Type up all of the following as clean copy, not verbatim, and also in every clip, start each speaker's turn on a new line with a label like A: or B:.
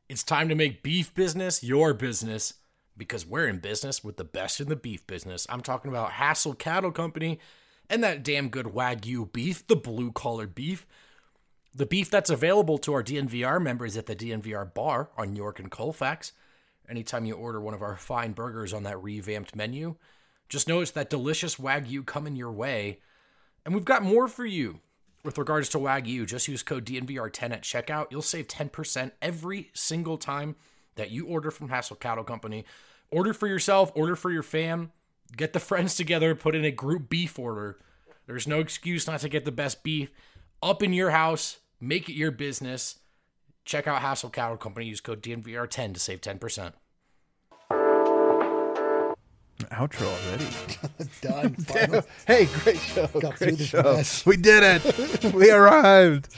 A: It's time to make beef business your business because we're in business with the best in the beef business. I'm talking about Hassel Cattle Company and that damn good Wagyu beef, the blue-collar beef. The beef that's available to our DNVR members at the DNVR bar on York and Colfax. Anytime you order one of our fine burgers on that revamped menu, just know it's that delicious Wagyu coming your way. And we've got more for you. With regards to Wagyu, just use code DNVR10 at checkout. You'll save 10% every single time that you order from Hassel Cattle Company. Order for yourself, order for your fam. Get the friends together, put in a group beef order. There's no excuse not to get the best beef up in your house. Make it your business. Check out Hassel Cattle Company. Use code DNVR10 to save 10%.
B: Outro already.
C: Done. Final.
B: Hey, great show.
C: Got through
B: Great
C: this
B: show.
C: mess.
B: We did it. We arrived.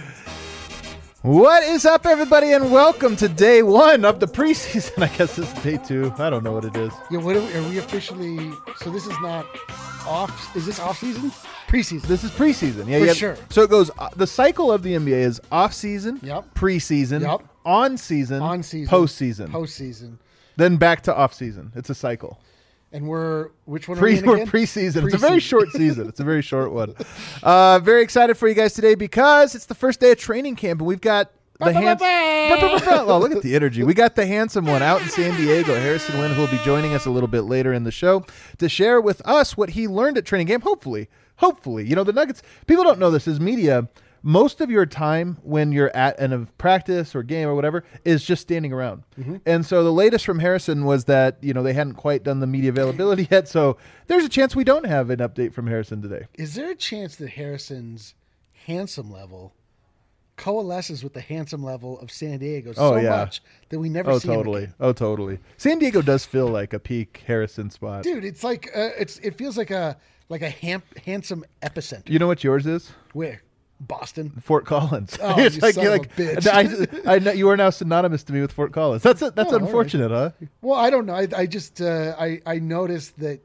B: What is up, everybody, and welcome to day one of the preseason. I guess this is day two. I don't know what it is.
C: Yeah, what are we officially? So this is not off. Is this off season? Preseason.
B: This is preseason. Yeah,
C: For
B: yeah.
C: sure.
B: So it goes. The cycle of the NBA is off season,
C: Yep.
B: preseason,
C: Yep.
B: on season,
C: On-season.
B: postseason,
C: Postseason.
B: then back to off season. It's a cycle.
C: And which one are we in
B: We're
C: again?
B: preseason. It's a very
C: Preseason.
B: short season. It's a very short one. Very excited for you guys today because it's the first day of training camp and we've got the well, look at the energy. We got the handsome one out in San Diego, Harrison Wynn, who will be joining us a little bit later in the show to share with us what he learned at training camp. Hopefully, you know, the Nuggets. People don't know this as media. Most of your time when you're at a practice or game or whatever is just standing around. Mm-hmm. And so the latest from Harrison was that, you know, they hadn't quite done the media availability yet. So there's a chance we don't have an update from Harrison today.
C: Is there a chance that Harrison's handsome level coalesces with the handsome level of San Diego much that we never see him again?
B: Oh, totally. San Diego does feel like a peak Harrison spot.
C: Dude, it's like it feels like a handsome epicenter.
B: You know what yours is?
C: Where? Boston.
B: Fort Collins.
C: Oh,
B: It's
C: you
B: like,
C: son
B: you're
C: of
B: like,
C: a bitch.
B: I know you are now synonymous to me with Fort Collins. That's unfortunate, huh?
C: Well, I don't know. I just I noticed that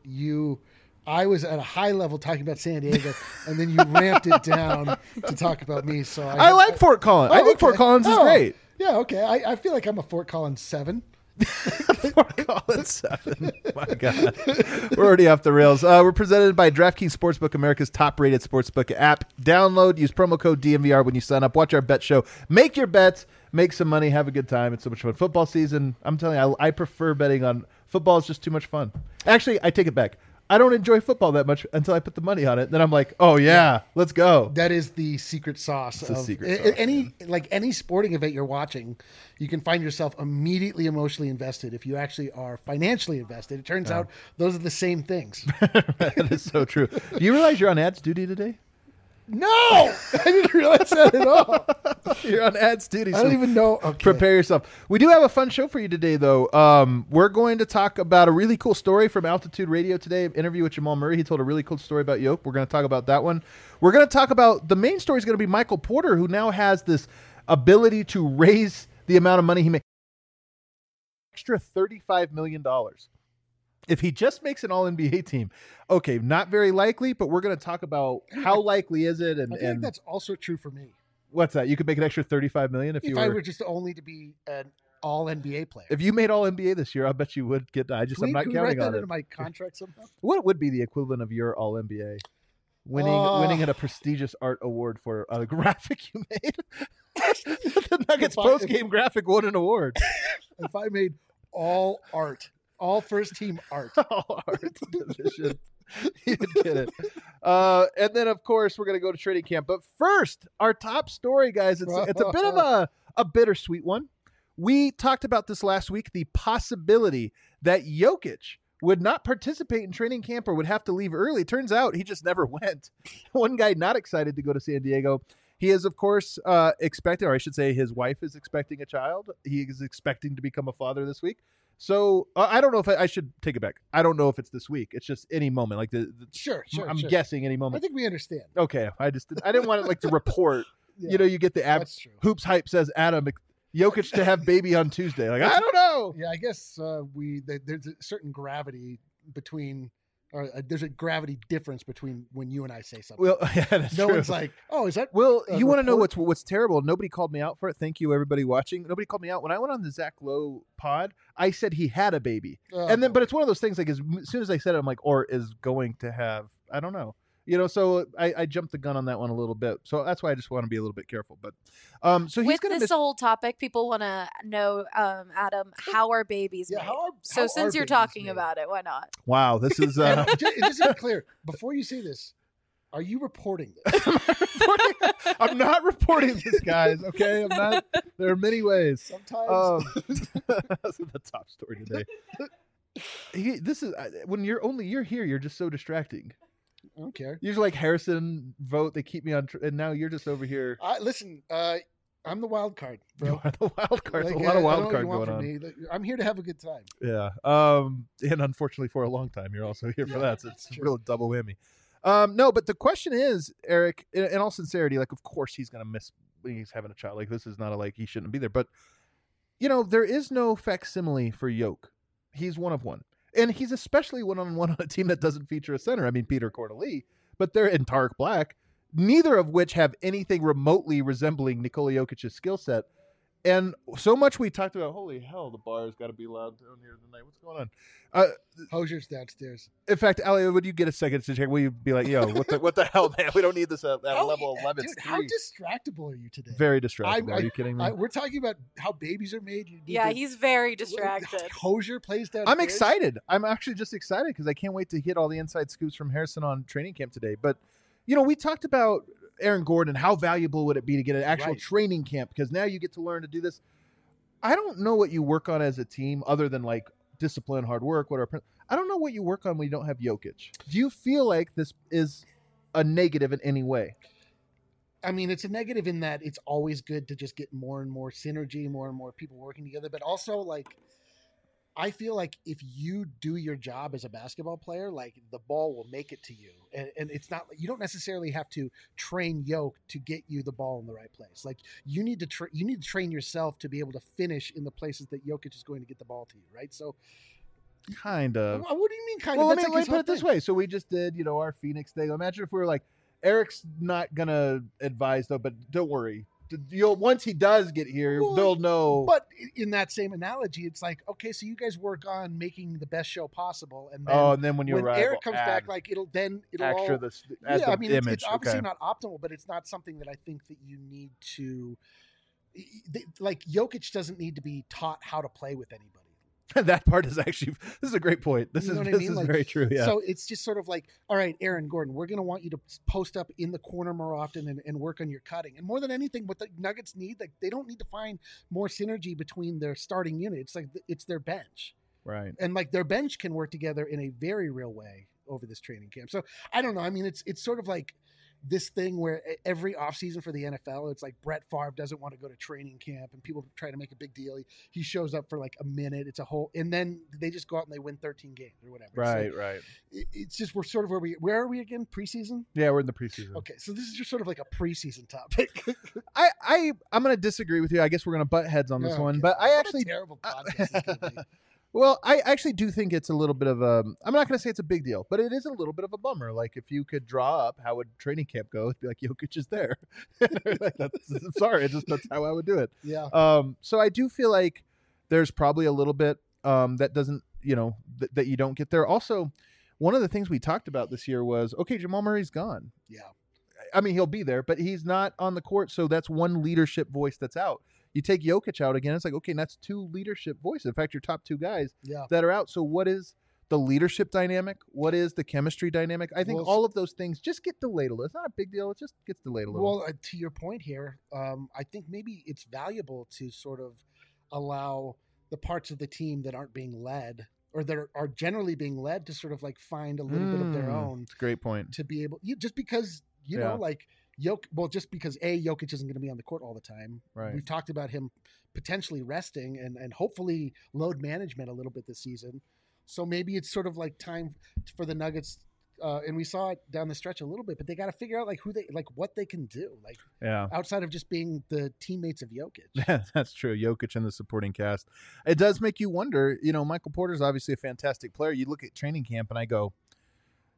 C: I was at a high level talking about San Diego, and then you ramped it down to talk about me. So
B: I like Fort Collins. I think Fort Collins is great.
C: Yeah, okay. I feel like I'm a Fort Collins 7.
B: Fort Collins 7. My God. We're already off the rails. We're presented by DraftKings Sportsbook, America's top-rated sportsbook app. Download, use promo code DNVR when you sign up. Watch our bet show. Make your bets. Make some money. Have a good time. It's so much fun. Football season, I'm telling you, I prefer betting on football. It's just too much fun. Actually, I take it back. I don't enjoy football that much until I put the money on it. Then I'm like, oh, yeah, let's go.
C: That is the secret sauce.
B: It's the secret sauce.
C: Any sporting event you're watching, you can find yourself immediately emotionally invested if you actually are financially invested. It turns out those are the same things.
B: That is so true. Do you realize you're on ads duty today?
C: No, I didn't realize that at all.
B: You're on ads duty.
C: I don't even know. Okay.
B: Prepare yourself. We do have a fun show for you today, though. We're going to talk about a really cool story from Altitude Radio today. An interview with Jamal Murray. He told a really cool story about Yoke. We're going to talk about that one. We're going to talk about the main story is going to be Michael Porter, who now has this ability to raise the amount of money he makes. Extra $35 million. If he just makes an All-NBA team, okay, not very likely, but we're going to talk about how likely is it. And
C: I think that's also true for me.
B: What's that? You could make an extra $35 million if
C: I were just only to be an All-NBA player.
B: If you made All-NBA this year, I bet you would get. I'm not counting
C: write that
B: on it.
C: into my contract somehow?
B: What would be the equivalent of your All-NBA? Winning at a prestigious art award for a graphic you made. The Nuggets post-game graphic won an award.
C: If I made all first-team art.
B: All art division. You'd get it. And then, of course, we're going to go to training camp. But first, our top story, guys. It's a bit of a bittersweet one. We talked about this last week, the possibility that Jokic would not participate in training camp or would have to leave early. Turns out he just never went. One guy not excited to go to San Diego. He is, of course, expecting, or I should say his wife is expecting a child. He is expecting to become a father this week. So I don't know if I should take it back. I don't know if it's this week. It's just any moment. Like
C: Sure.
B: I'm guessing any moment.
C: I think we understand.
B: Okay. I didn't want it like to report. Yeah, you know, you get the app. Hoops Hype says Adam Jokic to have baby on Tuesday. Like, I don't know.
C: Yeah, I guess there's a certain gravity between Or there's a gravity difference between when you and I say something.
B: Well, yeah, that's
C: no
B: true.
C: one's like, oh, is that?
B: Well,
C: a
B: you want to know
C: report?
B: what's terrible? Nobody called me out for it. Thank you, everybody watching. Nobody called me out when I went on the Zach Lowe pod. I said he had a baby, and then, but it's one of those things. Like as soon as I said it, I'm like, or is going to have. I don't know. So I jumped the gun on that one a little bit. So that's why I just want to be a little bit careful. But so he's
D: With
B: going to
D: this whole topic, people want to know, Adam, how are babies
C: Yeah,
D: made?
C: how
D: So
C: are
D: since you're
C: babies
D: talking
C: made?
D: about it, why not?
B: Wow, this is.
C: Just to be clear, before you say this, are you reporting this?
B: I'm not reporting this, guys. Okay, I'm not. There are many ways.
C: Sometimes.
B: That's the top story today. This is when you're here. You're just so distracting.
C: I don't care.
B: Usually, like Harrison vote, they keep me on, and now you're just over here.
C: Listen, I'm the wild card, bro.
B: You are the wild card.
C: Like,
B: There's a lot of
C: I
B: wild
C: don't know
B: card
C: what you
B: going
C: want
B: on.
C: from me. I'm here to have a good time.
B: Yeah. And unfortunately, for a long time, you're also here for that. So it's a
C: Sure.
B: real double whammy. No, but the question is, Eric, in all sincerity, like, of course he's gonna miss when he's having a child. Like, this is not like he shouldn't be there. But there is no facsimile for Yoke. He's one of one. And he's especially one-on-one on a team that doesn't feature a center. I mean, Peter Corneli, but they're in Tarek Black, neither of which have anything remotely resembling Nikola Jokic's skill set. And so much we talked about, holy hell, the bar has got to be loud down here tonight. What's going on?
C: Hosier's downstairs.
B: In fact, Ali, would you get a second to check? Will you be like, yo, what the hell, man? We don't need this at level 11.
C: Dude, how distractible are you today?
B: Very distractible. Are you kidding me?
C: We're talking about how babies are made.
D: He's very distracted.
C: Hosier plays downstairs.
B: I'm excited. I'm actually just excited because I can't wait to hit all the inside scoops from Harrison on training camp today. But, we talked about Aaron Gordon. How valuable would it be to get an actual training camp? Because now you get to learn to do this. I don't know what you work on as a team other than like discipline, hard work, whatever. I don't know what you work on when you don't have Jokic. Do you feel like this is a negative in any way?
C: I mean, it's a negative in that it's always good to just get more and more synergy, more and more people working together. But also, like, I feel like if you do your job as a basketball player, like the ball will make it to you. And it's not, you don't necessarily have to train Yoke to get you the ball in the right place. Like you need to train yourself to be able to finish in the places that Jokic is going to get the ball to you. Right. So
B: kind of,
C: what do you mean kind
B: of?
C: Well,
B: let me put it this way. So we just did, our Phoenix thing. Imagine if we were like, Eric's not going to advise though, but don't worry. Once he does get here, they'll know.
C: But in that same analogy, it's like, okay, so you guys work on making the best show possible, and then,
B: when
C: Eric comes back, like it'll
B: extra
C: all,
B: I mean,
C: image. It's obviously not optimal, but it's not something that I think that you need to. Like Jokic doesn't need to be taught how to play with anybody.
B: That part is actually, this is a great point. This is
C: Like,
B: very true. Yeah.
C: So it's just sort of like, all right, Aaron Gordon, we're going to want you to post up in the corner more often and work on your cutting. And more than anything, what the Nuggets need, like they don't need to find more synergy between their starting unit. It's like it's their bench.
B: Right.
C: And like their bench can work together in a very real way over this training camp. So I don't know. I mean, it's sort of like this thing where every offseason for the NFL, it's like Brett Favre doesn't want to go to training camp and people try to make a big deal. He shows up for like a minute. It's a whole, and then they just go out and they win 13 games or whatever.
B: Right,
C: so
B: right.
C: It's just, we're sort of where are we again? Preseason?
B: Yeah, we're in the preseason.
C: Okay. So this is just sort of like a preseason topic.
B: I'm going to disagree with you. I guess we're going to butt heads on this one, but I actually,
C: terrible podcast this could be.
B: Well, I actually do think it's a little bit of a, I'm not going to say it's a big deal, but it is a little bit of a bummer. Like if you could draw up how would training camp go, it'd be like Jokic is there. I'm sorry, that's how I would do it.
C: Yeah.
B: So I do feel like there's probably a little bit that doesn't, that you don't get there. Also, one of the things we talked about this year was, okay, Jamal Murray's gone.
C: Yeah.
B: I mean, he'll be there, but he's not on the court. So that's one leadership voice that's out. You take Jokic out again, it's like, okay, that's two leadership voices. In fact, your top two guys that are out. So what is the leadership dynamic? What is the chemistry dynamic? I think all of those things just get delayed a little. It's not a big deal. It just gets delayed a little.
C: Well, to your point here, I think maybe it's valuable to sort of allow the parts of the team that aren't being led or that are generally being led to sort of like find a little bit of their own.
B: That's a great point.
C: To be able, just because, know, like, just because Jokic isn't going to be on the court all the time.
B: Right.
C: We've talked about him potentially resting and hopefully load management a little bit this season. So maybe it's sort of like time for the Nuggets. And we saw it down the stretch a little bit, but they got to figure out what they can do, outside of just being the teammates of Jokic.
B: Yeah, that's true. Jokic and the supporting cast. It does make you wonder, Michael Porter's obviously a fantastic player. You look at training camp and I go,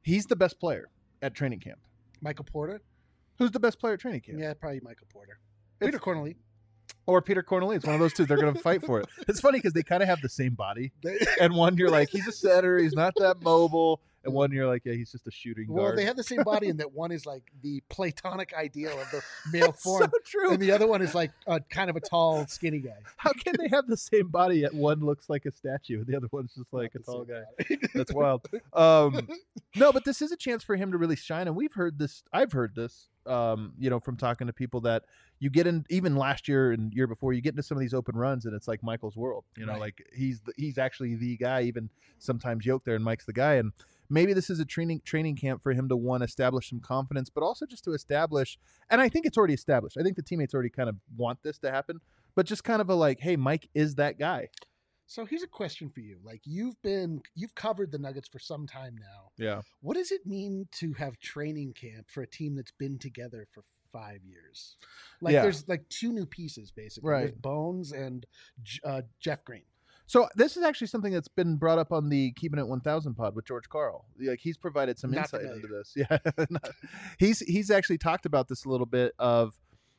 B: He's the best player at training camp.
C: Michael Porter.
B: Who's the best player at training camp?
C: Yeah, probably Michael Porter. Peter Corneli.
B: Or Peter Corneli. It's one of those two. They're going to fight for it. It's funny because they kind of have the same body. And one, you're like, he's a setter. He's not that mobile. And one, you're like, yeah, he's just a shooting guard.
C: Well, they have the same body in that one is like the platonic ideal of the male form.
B: So true.
C: And the other one is like kind of a tall, skinny guy.
B: How can they have the same body yet one looks like a statue and the other one's just like a tall guy? That's wild. No, but this is a chance for him to really shine. And we've heard this. I've heard this, from talking to people that you get in, even last year and year before, you get into some of these open runs and it's like Michael's world.
C: Right.
B: Like he's actually the guy. Even sometimes Yoke there and Mike's the guy. And maybe this is a training camp for him to, one, establish some confidence, but also just to establish, and I think it's already established. I think the teammates already kind of want this to happen, but just kind of a like, hey, Mike is that guy.
C: So here's a question for you. Like you've covered the Nuggets for some time now.
B: Yeah.
C: What does it mean to have training camp for a team that's been together for 5 years? Like there's like two new pieces basically.
B: Right.
C: There's Bones and Jeff Green.
B: So this is actually something that's been brought up on the Keeping It 1000 pod with George Carl. Like he's provided some
C: Not
B: insight
C: familiar.
B: into this. Yeah. He's actually talked about this a little bit of,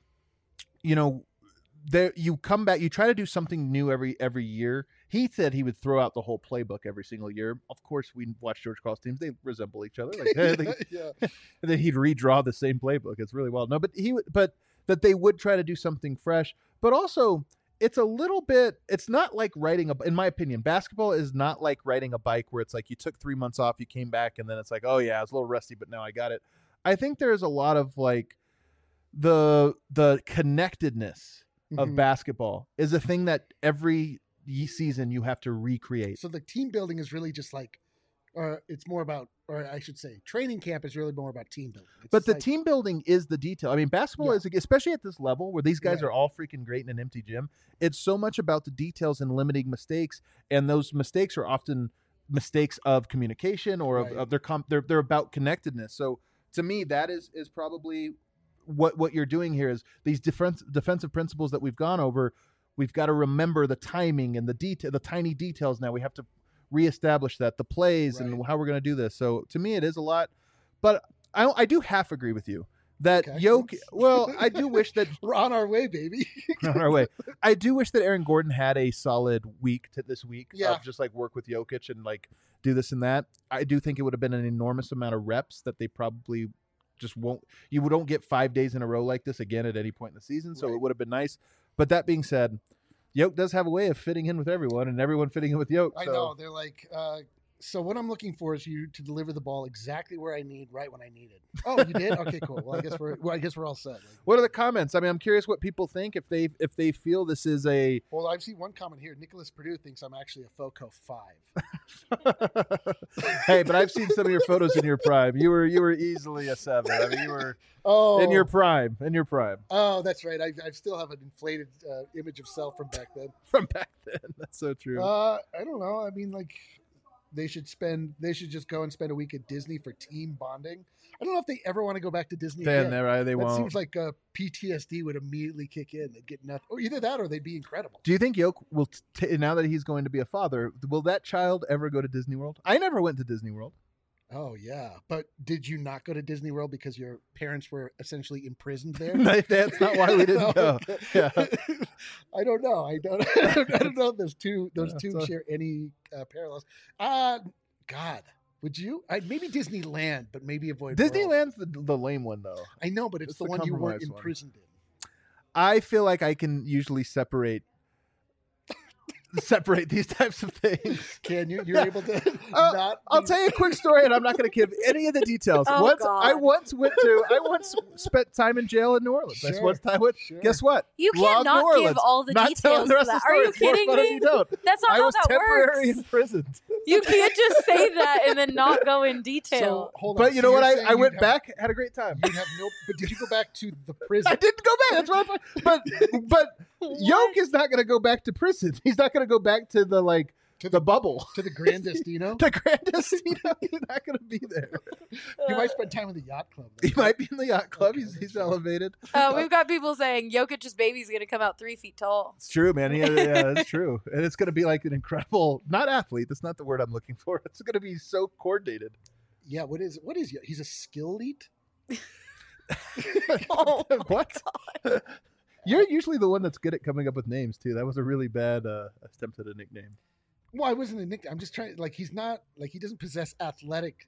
B: there you come back, you try to do something new every year. He said he would throw out the whole playbook every single year. Of course, we watch George Carl's teams; they resemble each other. Like,
C: Yeah.
B: and then he'd redraw the same playbook. It's really wild. No, but but they would try to do something fresh. But also, it's a little bit. It's not like in my opinion, basketball is not like riding a bike where it's like you took 3 months off, you came back, and then it's like, oh yeah, I was a little rusty, but now I got it. I think there's a lot of like the connectedness of basketball is a thing that every season you have to recreate.
C: So the team building is really just like, it's more about, or I should say, training camp is really more about team building. It's
B: But the
C: like,
B: team building is the detail. I mean, basketball is, especially at this level where these guys
C: Right.
B: are all freaking great in an empty gym, it's so much about the details and limiting mistakes. And those mistakes are often mistakes of communication or
C: Right.
B: of they're about connectedness. So to me, that is probably what you're doing here is these defensive principles that we've gone over. We've got to remember the timing and the tiny details. Now we have to reestablish that, the plays and how we're going to do this. So to me, it is a lot, but I do half agree with you that
C: Okay.
B: Yoke. Well, I do wish that
C: we're on our way, baby.
B: on our way. I do wish that Aaron Gordon had a solid week this week
C: Yeah.
B: of just like work with Jokic and like do this and that. I do think it would have been an enormous amount of reps that they probably just won't. You don't get 5 days in a row like this again at any point in the season, so
C: Right.
B: it would have been nice. But that being said, Yoke does have a way of fitting in with everyone, and everyone fitting in with Yoke.
C: I
B: so.
C: know. They're like, so what I'm looking for is you to deliver the ball exactly where I need, right when I need it. Oh, you did? Okay, cool. Well, I guess we're all set. Like,
B: What are the comments? I mean, I'm curious what people think if they feel this is a.
C: well, I've seen one comment here. Nicholas Purdue thinks I'm actually a FOCO 5.
B: Hey, but I've seen some of your photos in your prime. You were easily a 7. I mean, you were
C: Oh,
B: in your prime. In your prime.
C: Oh, that's right. I still have an inflated image of self from back then.
B: From back then. That's so true.
C: I don't know. I mean, like, they should just go and spend a week at Disney for team bonding. I don't know if they ever want to go back to Disney
B: Then
C: again.
B: they
C: That
B: won't.
C: seems like PTSD would immediately kick in. They'd get nothing, or either that, or they'd be incredible.
B: Do you think Yoke will, now that he's going to be a father, will that child ever go to Disney World? I never went to Disney World.
C: Oh yeah, but did you not go to Disney World because your parents were essentially imprisoned there?
B: That's not why we didn't go.
C: Okay.
B: Yeah.
C: I don't know. I don't know if those two
B: so-
C: share any parallels. God, would you? Maybe Disneyland, but maybe avoid World.
B: Disneyland's the lame one, though.
C: I know, but it's
B: It's
C: the
B: the
C: one you weren't
B: compromised one.
C: imprisoned in.
B: I feel like I can usually separate these types of things.
C: Can you? You're
B: Yeah.
C: able to not.
B: I'll
C: be-
B: tell you a quick story, and I'm not going to give any of the details.
D: Oh,
B: I
D: God.
B: once spent time in jail in New Orleans. That's
C: Sure.
B: one time.
C: Sure.
B: Guess what?
D: You
B: Law of
D: can't not
B: New
D: give
B: Orleans.
D: all the
B: Not telling
D: details
B: the
D: to
B: rest of
D: that.
B: the
D: Are you
B: story. It's more
D: kidding
B: fun if
D: me?
B: you don't.
D: That's not
B: I
D: how
B: was
D: that
B: temporarily
D: works.
B: imprisoned.
D: You can't just say that and then not go in detail.
C: So hold on.
B: But you
C: So
B: know what?
C: you're saying
B: I
C: you'd
B: went
C: have-
B: back, had a great time.
C: You'd have no. But did you go back to the prison?
B: I didn't go back. That's what I'm. But Yoke is not going to go back to prison. He's not going to go back to the
C: To
B: the bubble.
C: to the grandest, you know.
B: The grandest, he's not going to be there.
C: You might spend time in the yacht club. though.
B: He might be in the yacht club.
C: Okay,
B: He's
C: that's right.
B: elevated.
D: We've got people saying Jokic's baby's going to come out 3 feet tall.
B: It's true, man. Yeah, it's true. And it's going to be like an incredible, not athlete. That's not the word I'm looking for. It's going to be so coordinated.
C: Yeah, what is he's a skill elite?
D: Oh my
B: What?
D: God.
B: You're usually the one that's good at coming up with names too. That was a really bad attempt at a nickname.
C: Well, I wasn't a nickname. I'm just trying. Like, he's not like he doesn't possess athletic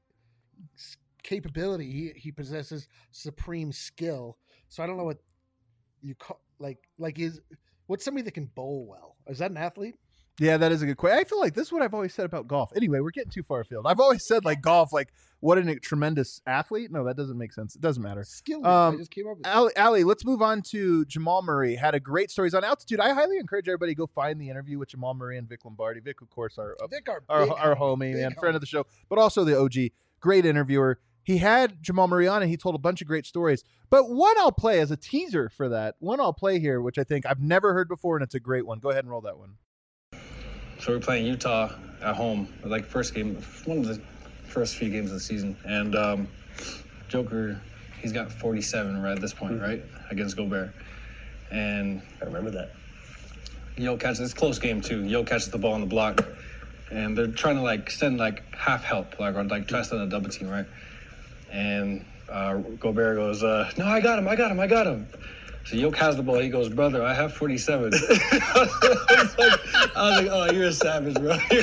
C: capability. He possesses supreme skill. So I don't know what you call what's somebody that can bowl well? Is that an athlete?
B: Yeah, that is a good question. I feel like this is what I've always said about golf. Anyway, we're getting too far afield. I've always said like golf, like what a tremendous athlete. No, that doesn't make sense. It doesn't matter.
C: Skill elite. I just came up with
B: Ali, let's move on to Jamal Murray. Had a great stories on Altitude. I highly encourage everybody to go find the interview with Jamal Murray and Vic Lombardi. Vic, of course, our homie and friend of the show, but also the OG. Great interviewer. He had Jamal Murray on and he told a bunch of great stories. But one I'll play as a teaser for that. One I'll play here, which I think I've never heard before, and it's a great one. Go ahead and roll that one.
E: So we're playing Utah at home, like first game, one of the first few games of the season. And Joker, he's got 47 right at this point, right? Against Gobert. And
F: I remember that.
E: Yo catches, it's a close game too. Yo catches the ball on the block. And they're trying to like send like half help, like, or like try to send a double team, right? And Gobert goes, no, I got him. So Yoke has the ball. He goes, brother, I have 47. I was like, oh, you're a savage, bro. You're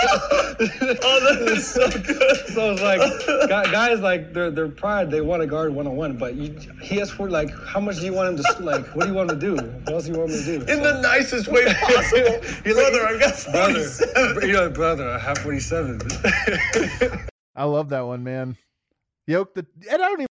F: Oh, that is so good.
E: So it's like, guys, like, they're pride. They want to guard one-on-one. But he has like, how much do you want him to, like, what do you want him to do? What else do you want him to do?
F: In the nicest way possible. Brother, I got 47.
E: Brother, I have 47.
B: I love that one, man. Yoke, and I don't even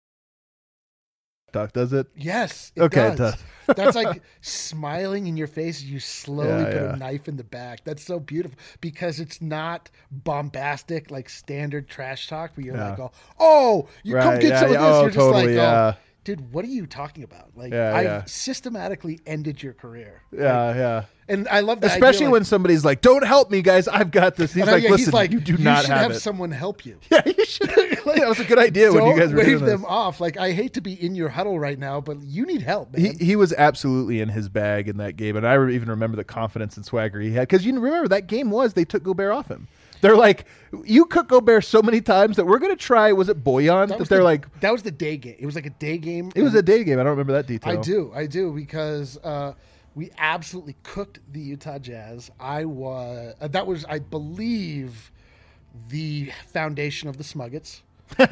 B: talk, does it?
C: Yes.
B: Okay,
C: It
B: it
C: does.
B: does.
C: That's like smiling in your face as you slowly put
B: Yeah.
C: a knife in the back. That's so beautiful because it's not bombastic like standard trash talk where you're
B: Yeah.
C: like, oh, you come get some of this. You're just
B: totally,
C: like,
B: yeah.
C: dude, what are you talking about? Like,
B: Yeah,
C: I've
B: yeah.
C: systematically ended your career.
B: Yeah.
C: And I love that.
B: Especially
C: idea,
B: when somebody's like, don't help me, guys. I've got this. He's like, listen, you do not
C: should
B: have
C: have
B: it.
C: someone help you.
B: Yeah, you should. That was a good idea when you guys were
C: wave
B: doing
C: them
B: this.
C: off. Like, I hate to be in your huddle right now, but you need help, man.
B: He was absolutely in his bag in that game. And I even remember the confidence and swagger he had. Because you remember that game they took Gobert off him. They're like, you cook Gobert so many times that we're going to try, was it Boyan? That
C: was the day game. It was like a day game.
B: It was a day game. I don't remember that detail.
C: I do because we absolutely cooked the Utah Jazz. That was, I believe, the foundation of the Smuggets.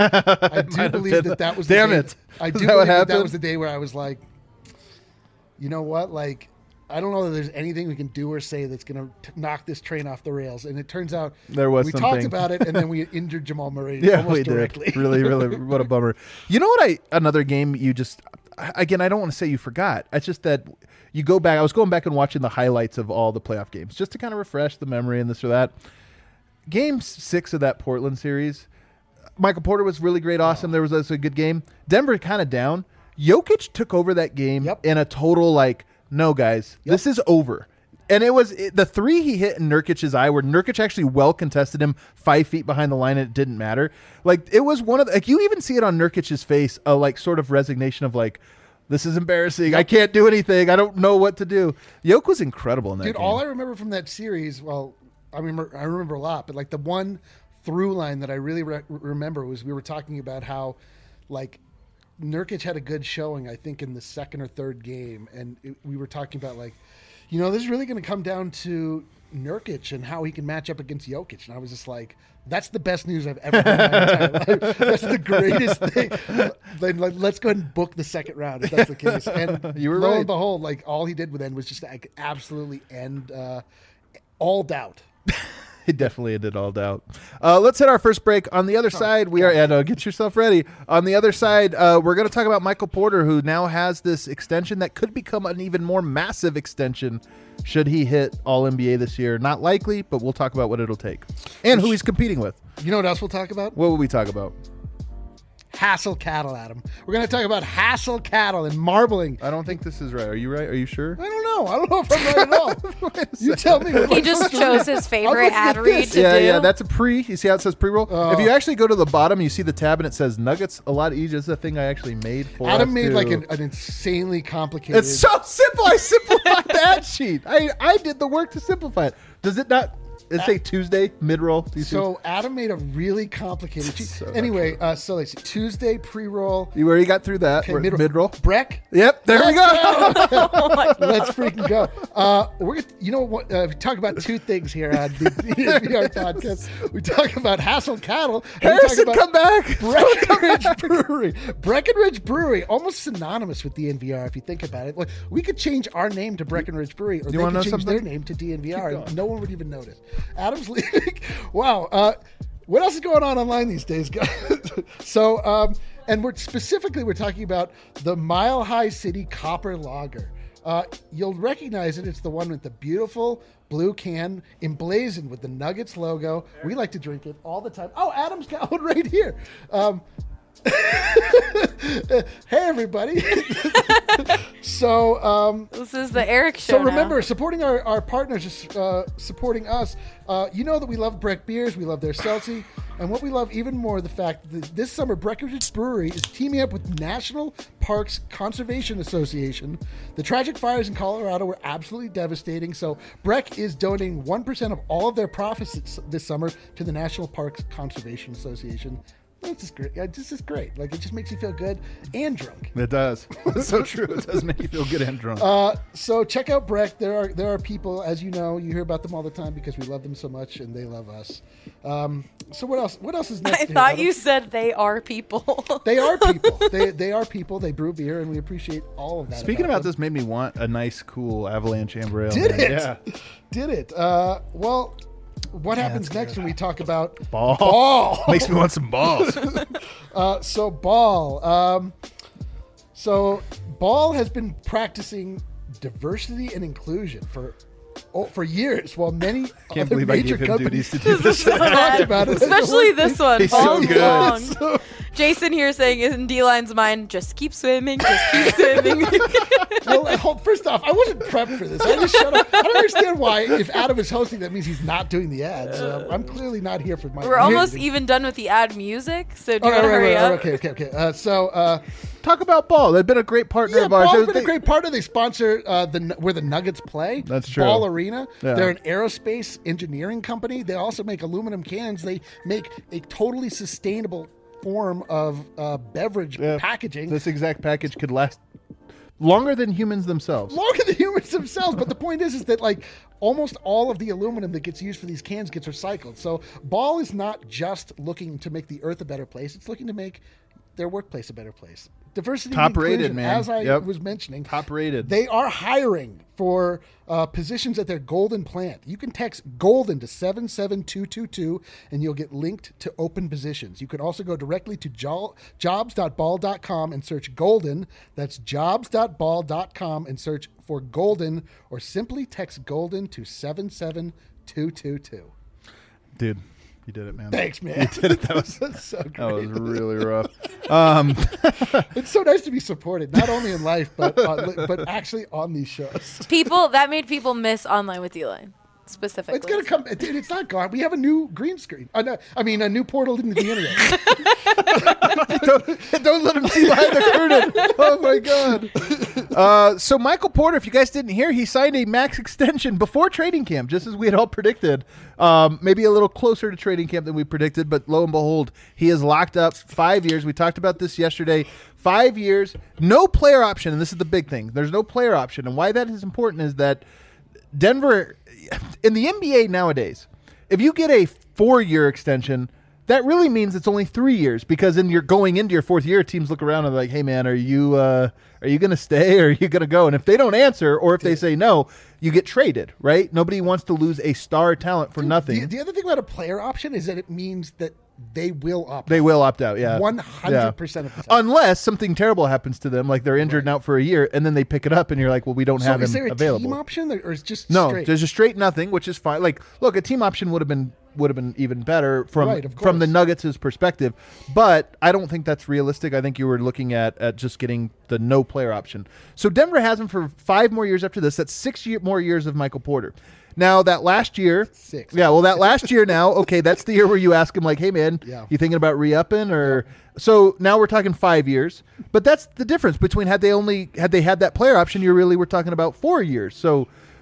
C: I do believe that was the
B: Damn
C: day.
B: it.
C: I do
B: Is that what
C: believe that
B: happened?
C: was the day where I was like, you know what? Like, I don't know that there's anything we can do or say that's going to knock this train off the rails. And it turns out
B: There was
C: we
B: something.
C: talked about it, and then we injured Jamal Murray
B: Yeah,
C: almost
B: we
C: directly.
B: did. Really, really, what a bummer. You know what? Another game you just, again, I don't want to say you forgot. It's just that you go back. I was going back and watching the highlights of all the playoff games just to kind of refresh the memory and this or that. Game 6 of that Portland series, Michael Porter was really great, awesome. There was a good game. Denver kind of down. Jokic took over that game in a total like, no, guys, this is over. And it was the three he hit in Nurkic's eye where Nurkic actually well contested him 5 feet behind the line and it didn't matter. Like, it was one of the, like, you even see it on Nurkic's face, a like sort of resignation of like, this is embarrassing. I can't do anything. I don't know what to do. Yoke was incredible in that game.
C: All I remember from that series, well, I remember a lot, but like the one through line that I really remember was we were talking about how like Nurkic had a good showing, I think, in the second or third game. And we were talking about like, you know, this is really going to come down to Nurkic and how he can match up against Jokic. And I was just like, that's the best news I've ever heard in my entire life. That's the greatest thing. Then let's go ahead and book the second round if that's the case. And
B: You were
C: lo
B: right.
C: and behold, like all he did with then was just like, absolutely end all doubt.
B: It definitely ended all doubt. Let's hit our first break. On the other side, we are get yourself ready. On the other side, we're going to talk about Michael Porter, who now has this extension that could become an even more massive extension should he hit All-NBA this year. Not likely, but we'll talk about what it'll take and who he's competing with.
C: You know what else we'll talk about?
B: What will we talk about?
C: Hassel cattle, Adam. We're going to talk about hassel cattle and marbling.
B: I don't think this is right. Are you right? Are you sure?
C: I don't know. I don't know if I'm right at all. You tell me. What am I
D: He just
C: supposed to
D: chose
C: read?
D: his favorite
C: looking
D: ad
C: at
D: read
C: this.
D: to
B: Yeah,
D: do.
B: yeah, that's a pre. You see how it says pre-roll? If you actually go to the bottom, you see the tab and it says Nuggets. A lot easier. This is a thing I actually made for
C: Adam
B: us
C: made
B: to-
C: like an insanely complicated.
B: It's so simple. I simplified the ad sheet. I did the work to simplify it. Does it not? Let's say Tuesday, mid-roll.
C: So Adam made a really complicated
B: So
C: anyway, so let's see. Tuesday pre-roll.
B: You already got through that.
C: Okay,
B: We're at
C: mid-roll.
B: mid-roll.
C: Breck.
B: Yep, there we go.
C: Let's freaking go. We're gonna, you know what? We talk about two things here on the DNVR podcast. We talk about Hassel Cattle. And
B: Harrison,
C: we talk
B: come back.
C: Breckenridge Brewery. Breckenridge Brewery, almost synonymous with DNVR if you think about it. Like, we could change our name to Breckenridge Brewery, or they
B: wanna know
C: could change their
B: something?
C: name to DNVR, and no one would even notice. Adam's leaving. Wow. What else is going on online these days, guys? So, and we're talking about the Mile High City Copper Lager. You'll recognize it. It's the one with the beautiful blue can emblazoned with the Nuggets logo. We like to drink it all the time. Oh, Adam's got one right here. Hey, everybody. So,
D: This is the Eric show.
C: so remember, supporting our partners is supporting us. You know that we love Breck beers. We love their seltzy. And what we love even more, the fact that this summer Breckenridge Brewery is teaming up with National Parks Conservation Association. The tragic fires in Colorado were absolutely devastating. So Breck is donating 1% of all of their profits this summer to the National Parks Conservation Association. It's just great. This is great. Like, it just makes you feel good and drunk.
B: It does. It's so true. It does make you feel good and drunk.
C: So check out Breck. There are people, as you know, you hear about them all the time because we love them so much and they love us. So what else? What else is next?
D: I
C: here,
D: thought
C: Adam?
D: you said they are people.
C: They are people. They are people. They brew beer, and we appreciate all of that.
B: Speaking about
C: them.
B: this made me want a nice, cool Avalanche Amber Ale.
C: Did
B: man.
C: it?
B: Yeah.
C: Did it? Well, what happens next when we talk about
B: Ball.
C: Ball?
B: Makes me want some balls.
C: So Ball. So Ball has been practicing diversity and inclusion for years, while many
B: Can't
C: other
B: believe I
C: major
B: gave him
C: companies
B: duties to do this.
D: So bad.
C: about it.
D: Especially this one.
B: He's so
D: Ball's
B: good.
D: long. Jason here saying in D-Line's mind, just keep swimming, just keep swimming.
C: Well, first off, I wasn't prepped for this. I just shut up. I don't understand why, if Adam is hosting, that means he's not doing the ads. I'm clearly not here for my.
D: We're almost even done with the ad music, so do you
C: All
D: want to hurry up?
C: Okay. So,
B: Talk about Ball. They've been a great partner
C: yeah,
B: of ours.
C: Ball's been a great partner. They sponsor where the Nuggets play.
B: That's true.
C: Ball Arena.
B: Yeah.
C: They're an aerospace engineering company. They also make aluminum cans. They make a totally sustainable form of beverage packaging.
B: This exact package could last longer than humans themselves.
C: Longer than humans themselves. But the point is that like almost all of the aluminum that gets used for these cans gets recycled. So Ball is not just looking to make the earth a better place. It's looking to make their workplace a better place. Diversity
B: Top
C: and inclusion,
B: rated, man.
C: as I
B: Yep.
C: was mentioning.
B: Top rated.
C: They are hiring for positions at their Golden plant. You can text Golden to 77222 and you'll get linked to open positions. You can also go directly to jobs.ball.com and search Golden. That's jobs.ball.com and search for Golden, or simply text Golden to 77222.
B: Dude, you did it, man.
C: Thanks, man.
B: You did it. That was
C: so great.
B: That was really rough.
C: It's so nice to be supported, not only in life, but actually on these shows.
D: That made people miss Online with D-Line, specifically.
C: It's gonna come. Dude, it's not gone. We have a new green screen. No, I mean, a new portal into the internet.
B: Don't let him see behind the curtain. Oh my god. So Michael Porter, if you guys didn't hear, he signed a max extension before training camp, just as we had all predicted. Maybe a little closer to training camp than we predicted, but lo and behold, he is locked up 5 years. We talked about this yesterday. 5 years, no player option, and this is the big thing. There's no player option, and why that is important is that Denver, in the NBA nowadays, if you get a 4-year extension, that really means it's only 3 years, because you're going into your 4th year, teams look around and they're like, hey man, are you going to stay or are you going to go? And if they don't answer, or if they say no, you get traded, right? Nobody wants to lose a star talent for nothing.
C: The other thing about a player option is that it means that they will opt
B: They will opt out, yeah.
C: 100% of the time.
B: Unless something terrible happens to them, like they're injured and out for a year, and then they pick it up and you're like, well, we don't have
C: is
B: him
C: there a
B: available.
C: team option or is just
B: No,
C: straight?
B: there's a straight nothing, which is fine. Like, look, a team option would have been even better
C: Right, of
B: from the
C: course.
B: Nuggets' perspective, but I don't think that's realistic. I think you were looking at just getting the no player option. So Denver has him for 5 more years after this. That's 6 more years of Michael Porter. Now that last year,
C: 6.
B: yeah, well, that last year now, okay, that's the year where you ask him like, hey man,
C: Yeah.
B: you thinking about re-upping or? So now we're talking 5 years, but that's the difference between had they had that player option, you really were talking about 4 years. So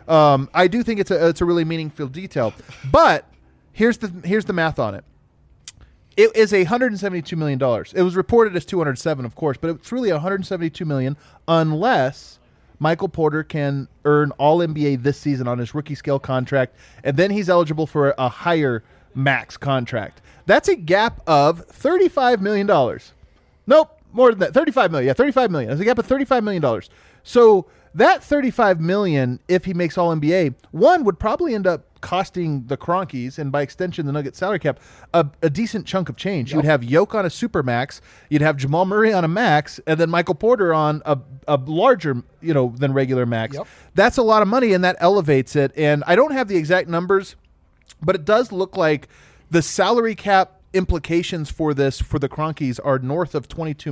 B: I do think it's a really meaningful detail. But here's the math on it. It is $172 million. It was reported as 207, of course, but it's really $172 million unless Michael Porter can earn All-NBA this season on his rookie scale contract, and then he's eligible for a higher max contract. That's a gap of $35 million. Nope, more than that. $35 million. Yeah, $35 million. That's a gap of $35 million. So that $35 million, if he makes All-NBA, one would probably end up costing the Cronkies, and by extension the Nuggets salary cap, a decent chunk of change. Yep. You'd have Yoke on a super max, you'd have Jamal Murray on a max, and then Michael Porter on a larger, than regular max. Yep. That's a lot of money, and that elevates it. And I don't have the exact numbers, but it does look like the salary cap implications for the Cronkies are north of $22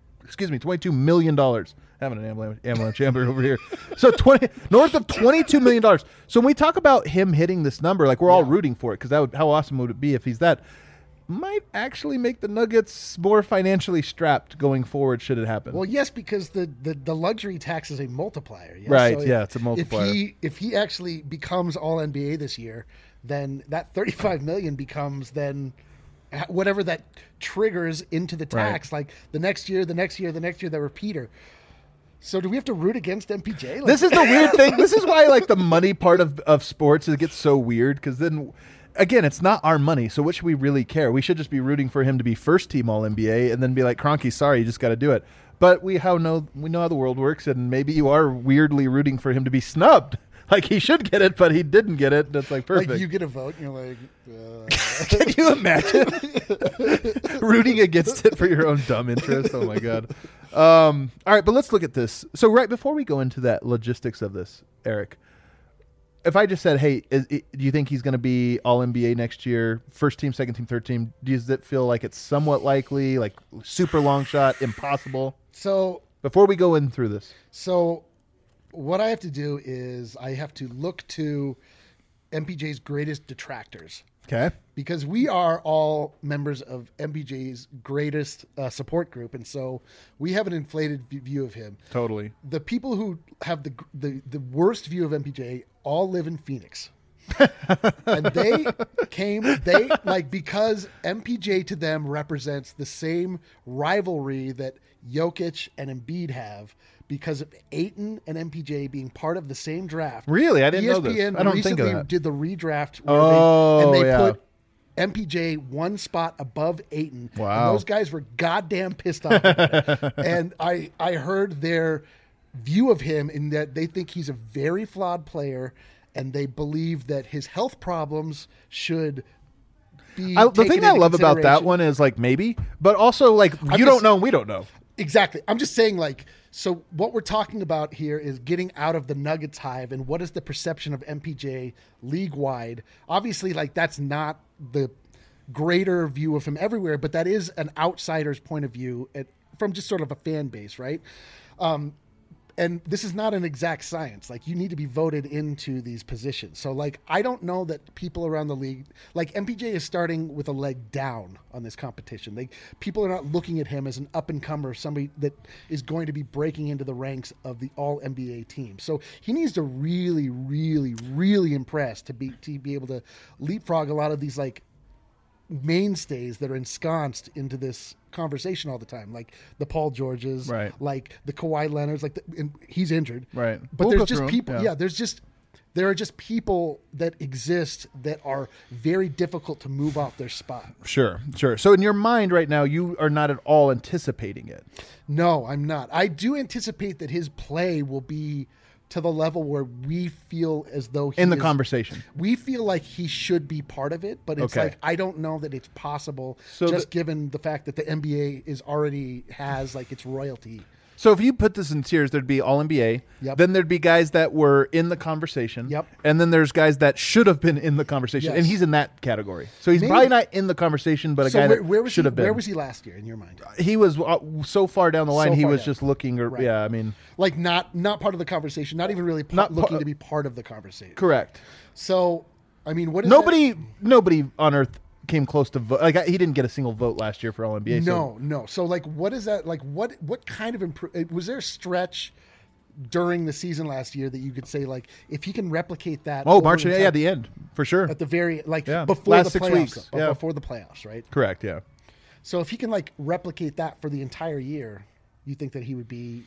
B: million. Having an ambulance chamber over here. So north of $22 million. So when we talk about him hitting this number, like we're all rooting for it, because how awesome would it be if he's that? Might actually make the Nuggets more financially strapped going forward should it happen.
C: Well, yes, because the luxury tax is a multiplier. Yes?
B: Right, so it's a multiplier.
C: If he actually becomes All-NBA this year, then that $35 million becomes then whatever that triggers into the tax, like the next year, the repeater. So do we have to root against MPJ? Like,
B: this is the weird thing. This is why the money part of sports gets so weird, because then, again, it's not our money. So what should we really care? We should just be rooting for him to be first team All-NBA and then be like, Kroenke, sorry, you just got to do it. But we know how the world works, and maybe you are weirdly rooting for him to be snubbed. Like he should get it, but he didn't get it. That's like perfect.
C: Like you get a vote, and you're like,
B: Can you imagine rooting against it for your own dumb interest? Oh my God. All right, but let's look at this. So right before we go into that logistics of this, Eric, if I just said, hey, do you think he's going to be All-NBA next year, first team, second team, third team, does it feel like it's somewhat likely, like super long shot, impossible?
C: So
B: before we go in through this.
C: So what I have to do is I have to look to MPJ's greatest detractors.
B: Okay.
C: Because we are all members of MPJ's greatest support group, and so we have an inflated view of him.
B: Totally.
C: The people who have the worst view of MPJ all live in Phoenix. And because MPJ to them represents the same rivalry that Jokic and Embiid have, because of Ayton and MPJ being part of the same draft.
B: Really? I didn't know this.
C: ESPN
B: I don't think of that.
C: Did the redraft
B: where
C: they put MPJ one spot above Ayton.
B: Wow.
C: And those guys were goddamn pissed off about it. And I heard their view of him in that they think he's a very flawed player, and they believe that his health problems should be
B: the thing I love about that one is maybe, but also you don't know and we don't know.
C: Exactly. I'm just saying so what we're talking about here is getting out of the Nuggets hive, and what is the perception of MPJ league-wide. Obviously, that's not the greater view of him everywhere, but that is an outsider's point of view from just sort of a fan base, right? And this is not an exact science. You need to be voted into these positions. So, I don't know that people around the league, MPJ is starting with a leg down on this competition. People are not looking at him as an up-and-comer, somebody that is going to be breaking into the ranks of the All-NBA team. So he needs to really, really, really impress to be able to leapfrog a lot of these, mainstays that are ensconced into this conversation all the time, like the Paul Georges,
B: right,
C: like the Kawhi Leonards, and he's injured,
B: right,
C: but there's just people there are just people that exist that are very difficult to move off their spot.
B: Sure. So in your mind right now, you are not at all anticipating it.
C: No, I'm not. I do anticipate that his play will be to the level where we feel as though he
B: in the conversation.
C: We feel like he should be part of it, but it's I don't know that it's possible, given the fact that the NBA has its royalty.
B: So if you put this in tiers, there'd be All-NBA.
C: Yep.
B: Then there'd be guys that were in the conversation.
C: Yep.
B: And then there's guys that should have been in the conversation. Yes. And he's in that category. So he's probably not in the conversation, but guy that should have been.
C: Where was he last year in your mind?
B: He was so far down the line, he was just looking.
C: Right.
B: Yeah, I mean.
C: Not part of the conversation, not even really looking to be part of the conversation.
B: Correct.
C: So, I mean, what is
B: Nobody on earth came close to vote. He didn't get a single vote last year for All-NBA.
C: No. So what is that? What kind of was there a stretch during the season last year that you could say like if he can replicate that.
B: Oh,
C: over
B: March,
C: the
B: yeah,
C: entire-
B: the end for sure.
C: at the very
B: Yeah.
C: before
B: Last
C: the
B: 6
C: playoffs,
B: weeks, yeah.
C: before the playoffs, right?
B: Correct. Yeah.
C: So if he can like replicate that for the entire year, you think that he would be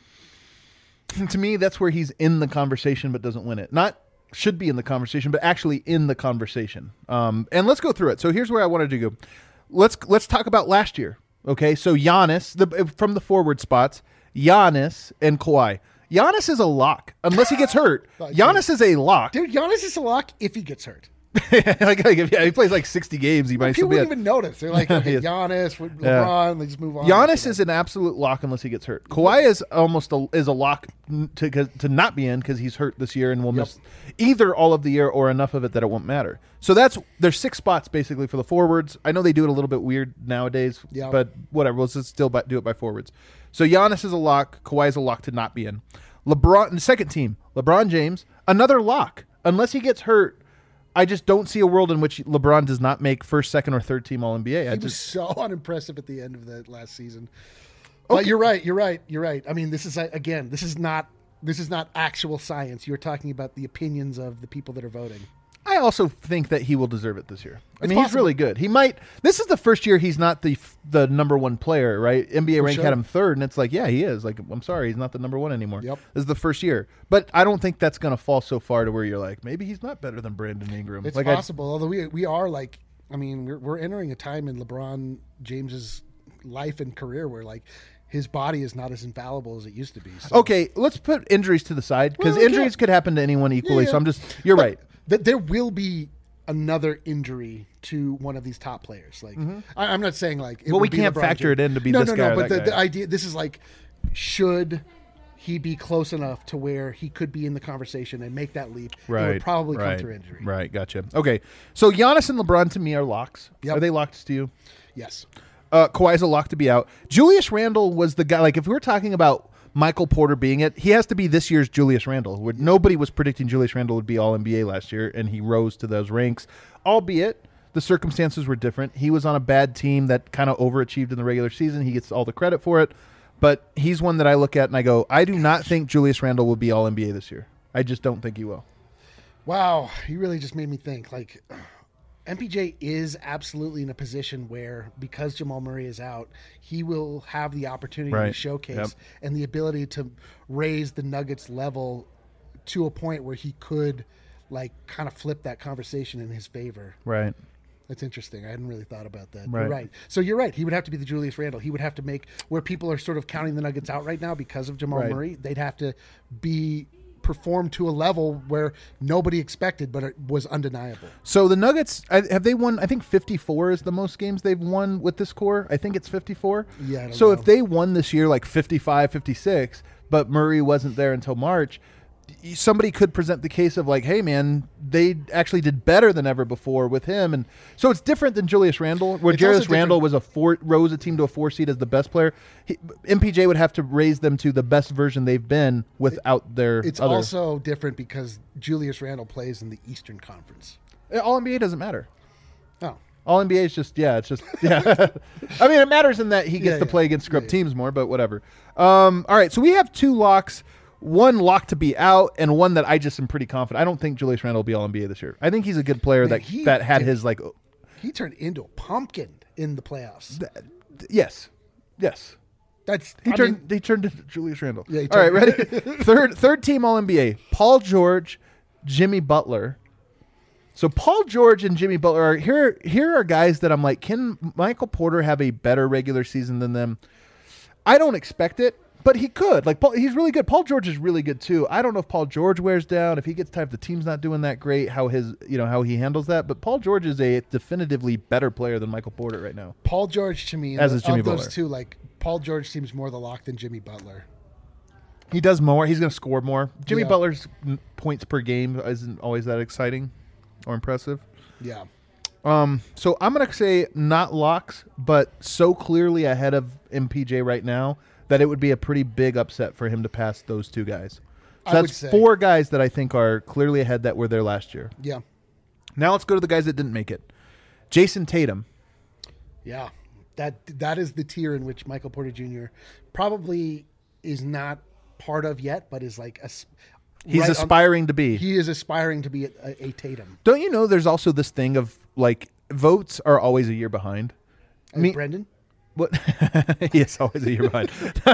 B: To me, that's where he's in the conversation but doesn't win it. Not should be in the conversation, but actually in the conversation. And let's go through it. So here's where I wanted to go. Let's talk about last year. Okay, so Giannis, from the forward spots, Giannis and Kawhi. Giannis is a lock unless he gets hurt. Giannis is a lock.
C: dude. Giannis is a lock if he gets hurt.
B: like if he plays like 60 games, he might still
C: People
B: be.
C: wouldn't even notice. They're like, okay,
B: He is.
C: Giannis, with
B: Yeah.
C: LeBron, they just move on.
B: Giannis is an absolute lock unless he gets hurt. Kawhi is almost a lock to not be in because he's hurt this year and will miss either all of the year or enough of it that it won't matter. So there's 6 spots basically for the forwards. I know they do it a little bit weird nowadays,
C: Yeah.
B: but whatever. We'll just still do it by forwards. So Giannis is a lock. Kawhi is a lock to not be in. LeBron, second team, LeBron James, another lock unless he gets hurt. I just don't see a world in which LeBron does not make first, second, or third team All NBA.
C: He was so unimpressive at the end of the last season. But you're right. I mean, this is not actual science. You're talking about the opinions of the people that are voting.
B: I also think that he will deserve it this year. I
C: It's
B: mean, he's
C: possible.
B: really good. He might. This is the first year he's not the number one player, right? NBA rank
C: sure.
B: had him third, and it's like, yeah, he is. Like, I'm sorry, he's not the number one anymore.
C: Yep.
B: This is the first year, but I don't think that's going to fall so far to where you're like, maybe he's not better than Brandon Ingram.
C: It's
B: like,
C: possible, although we are like, I mean, we're entering a time in LeBron James's life and career where like his body is not as infallible as it used to be. So.
B: Okay, let's put injuries to the side because
C: Well, we
B: injuries
C: can't-
B: could happen to anyone equally.
C: Yeah,
B: So
C: yeah.
B: you're
C: But
B: right.
C: There will be another injury to one of these top players. Like I'm not saying like it
B: Well, we
C: would be
B: can't
C: LeBron
B: factor
C: James.
B: it in to be
C: no,
B: this
C: no,
B: guy
C: no.
B: or
C: But
B: that
C: the
B: guy.
C: idea, this is like, should he be close enough to where he could be in the conversation and make that leap? It would probably come through injury.
B: Right, gotcha. Okay, so Giannis and LeBron to me are locks.
C: Yep.
B: Are they locks to you?
C: Yes.
B: Kawhi's a lock to be out. Julius Randle was the guy. Like, if we were talking about Michael Porter being it, he has to be this year's Julius Randle. Where nobody was predicting Julius Randle would be All NBA last year, and he rose to those ranks. Albeit the circumstances were different. He was on a bad team that kind of overachieved in the regular season. He gets all the credit for it, but he's one that I look at and I go, I do not think Julius Randle will be All NBA this year. I just don't think he will.
C: Wow, you really just made me think. Like, MPJ is absolutely in a position where, because Jamal Murray is out, he will have the opportunity to
B: Right.
C: showcase
B: Yep.
C: and the ability to raise the Nuggets level to a point where he could, like, kind of flip that conversation in his favor.
B: Right.
C: That's interesting. I hadn't really thought about that.
B: Right.
C: You're right. So you're right. He would have to be the Julius Randle. He would have to make where people are sort of counting the Nuggets out right now because of Jamal
B: Right.
C: Murray. They'd have to perform to a level where nobody expected, but it was undeniable.
B: So the Nuggets, have they won? I think 54 is the most games they've won with this core. I think it's 54.
C: Yeah, I don't
B: So
C: know.
B: if they won this year like 55, 56, but Murray wasn't there until March, somebody could present the case of like, hey man, they actually did better than ever before with him. And so it's different than Julius Randle, where
C: It's also
B: Julius Randle was rose a team to a 4 seed as the best player. MPJ would have to raise them to the best version they've been without their
C: It's
B: other.
C: also different because Julius Randle plays in the Eastern Conference.
B: All NBA doesn't matter.
C: Oh,
B: All NBA is just, yeah, it's just, yeah. I mean, it matters in that he gets
C: Yeah,
B: to
C: yeah.
B: play against scrub
C: Yeah, yeah.
B: teams more, but whatever. All right, so we have 2 locks, one lock to be out, and one that I just am pretty confident. I don't think Julius Randle will be All NBA this year. I think he's a good player
C: Man, he
B: that had
C: did-
B: his like,
C: he turned into a pumpkin in the playoffs.
B: yes.
C: That's
B: He
C: I
B: turned
C: mean,
B: he turned into Julius Randle.
C: Yeah, he
B: All right,
C: turned-
B: ready? third team All NBA. Paul George, Jimmy Butler. So Paul George and Jimmy Butler are here are guys that I'm like, can Michael Porter have a better regular season than them? I don't expect it, but he could. Like he's really good. Paul George is really good too. I don't know if Paul George wears down, if he gets tired, if the team's not doing that great, how he handles that. But Paul George is a definitively better player than Michael Porter right now.
C: Paul George to me,
B: As is Jimmy
C: of those
B: Butler.
C: two, like Paul George seems more the lock than Jimmy Butler.
B: He does more. He's going to score more. Jimmy
C: Yeah.
B: Butler's points per game isn't always that exciting or impressive.
C: Yeah.
B: So I'm going to say not locks, but so clearly ahead of MPJ right now that it would be a pretty big upset for him to pass those 2 guys. So
C: I would
B: that's
C: say.
B: 4 guys that I think are clearly ahead that were there last year.
C: Yeah.
B: Now let's go to the guys that didn't make it. Jason Tatum.
C: Yeah. That is the tier in which Michael Porter Jr. probably is not part of yet, but is like
B: He's aspiring to be.
C: He is aspiring to be a Tatum.
B: Don't you know there's also this thing of like votes are always a year behind?
C: Brendan?
B: What? Yes, always a year behind.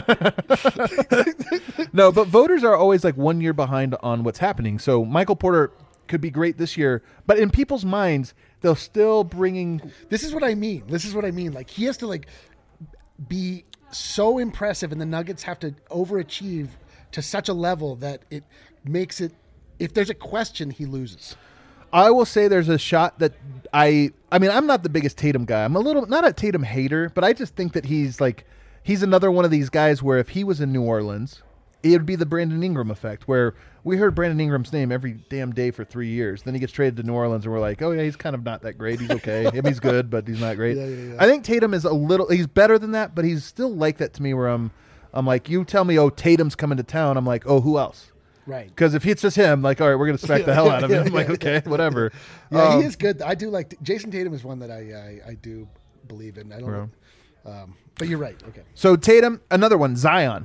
B: No, but voters are always like 1 year behind on what's happening. So Michael Porter could be great this year, but in people's minds, they'll still bringing.
C: This is what I mean. Like he has to like be so impressive, and the Nuggets have to overachieve to such a level that it makes it. If there's a question, he loses.
B: I will say there's a shot that I mean, I'm not the biggest Tatum guy. I'm not a Tatum hater, but I just think that he's another one of these guys where if he was in New Orleans, it would be the Brandon Ingram effect, where we heard Brandon Ingram's name every damn day for 3 years. Then he gets traded to New Orleans, and we're like, oh yeah, he's kind of not that great. He's okay. I mean, he's good, but he's not great.
C: Yeah.
B: I think Tatum is he's better than that, but he's still like that to me where I'm like, you tell me, oh, Tatum's coming to town. I'm like, oh, who else?
C: Right.
B: Because if it's just him, like, all right, we're going to smack the hell out of him. I'm like, okay, whatever.
C: Yeah, he is good. I do like Jason Tatum is one that I do believe in. I don't know. But you're right. Okay.
B: So Tatum, another one, Zion.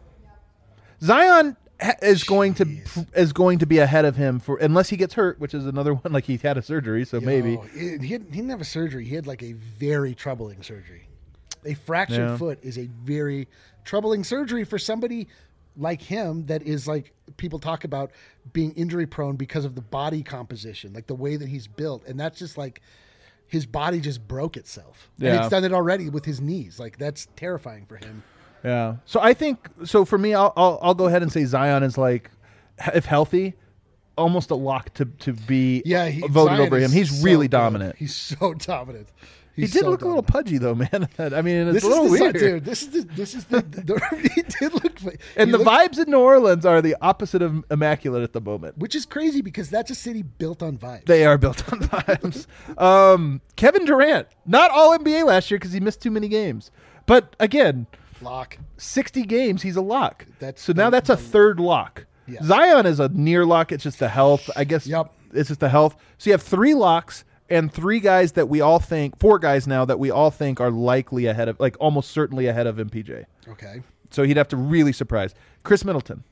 B: Zion is going to be ahead of him for unless he gets hurt, which is another one. Like he had a surgery, so maybe
C: he didn't have a surgery. He had like a very troubling surgery. A fractured foot is a very troubling surgery for somebody like him that is like people talk about being injury prone because of the body composition, like the way that he's built, and that's just like his body just broke itself.
B: Yeah.
C: And it's done it already with his knees. Like that's terrifying for him.
B: Yeah. So I think for me, I'll go ahead and say Zion is like, if healthy, almost a lock to be voted over him. He's really dominant.
C: He's so dominant.
B: He did look a little pudgy though, man. I mean, it's a little weird.
C: Dude, this is the he did look.
B: And the vibes in New Orleans are the opposite of immaculate at the moment,
C: which is crazy because that's a city built on vibes.
B: They are built on vibes. Kevin Durant, not all NBA last year because he missed too many games, but again,
C: lock
B: 60 games, he's a lock.
C: That's
B: a third lock.
C: Yes.
B: Zion is a near lock. It's just the health, I guess.
C: Yep.
B: It's just the health. So you have 3 locks. And 4 guys now that we all think are likely ahead of, like almost certainly ahead of MPJ.
C: Okay.
B: So he'd have to really surprise. Chris Middleton.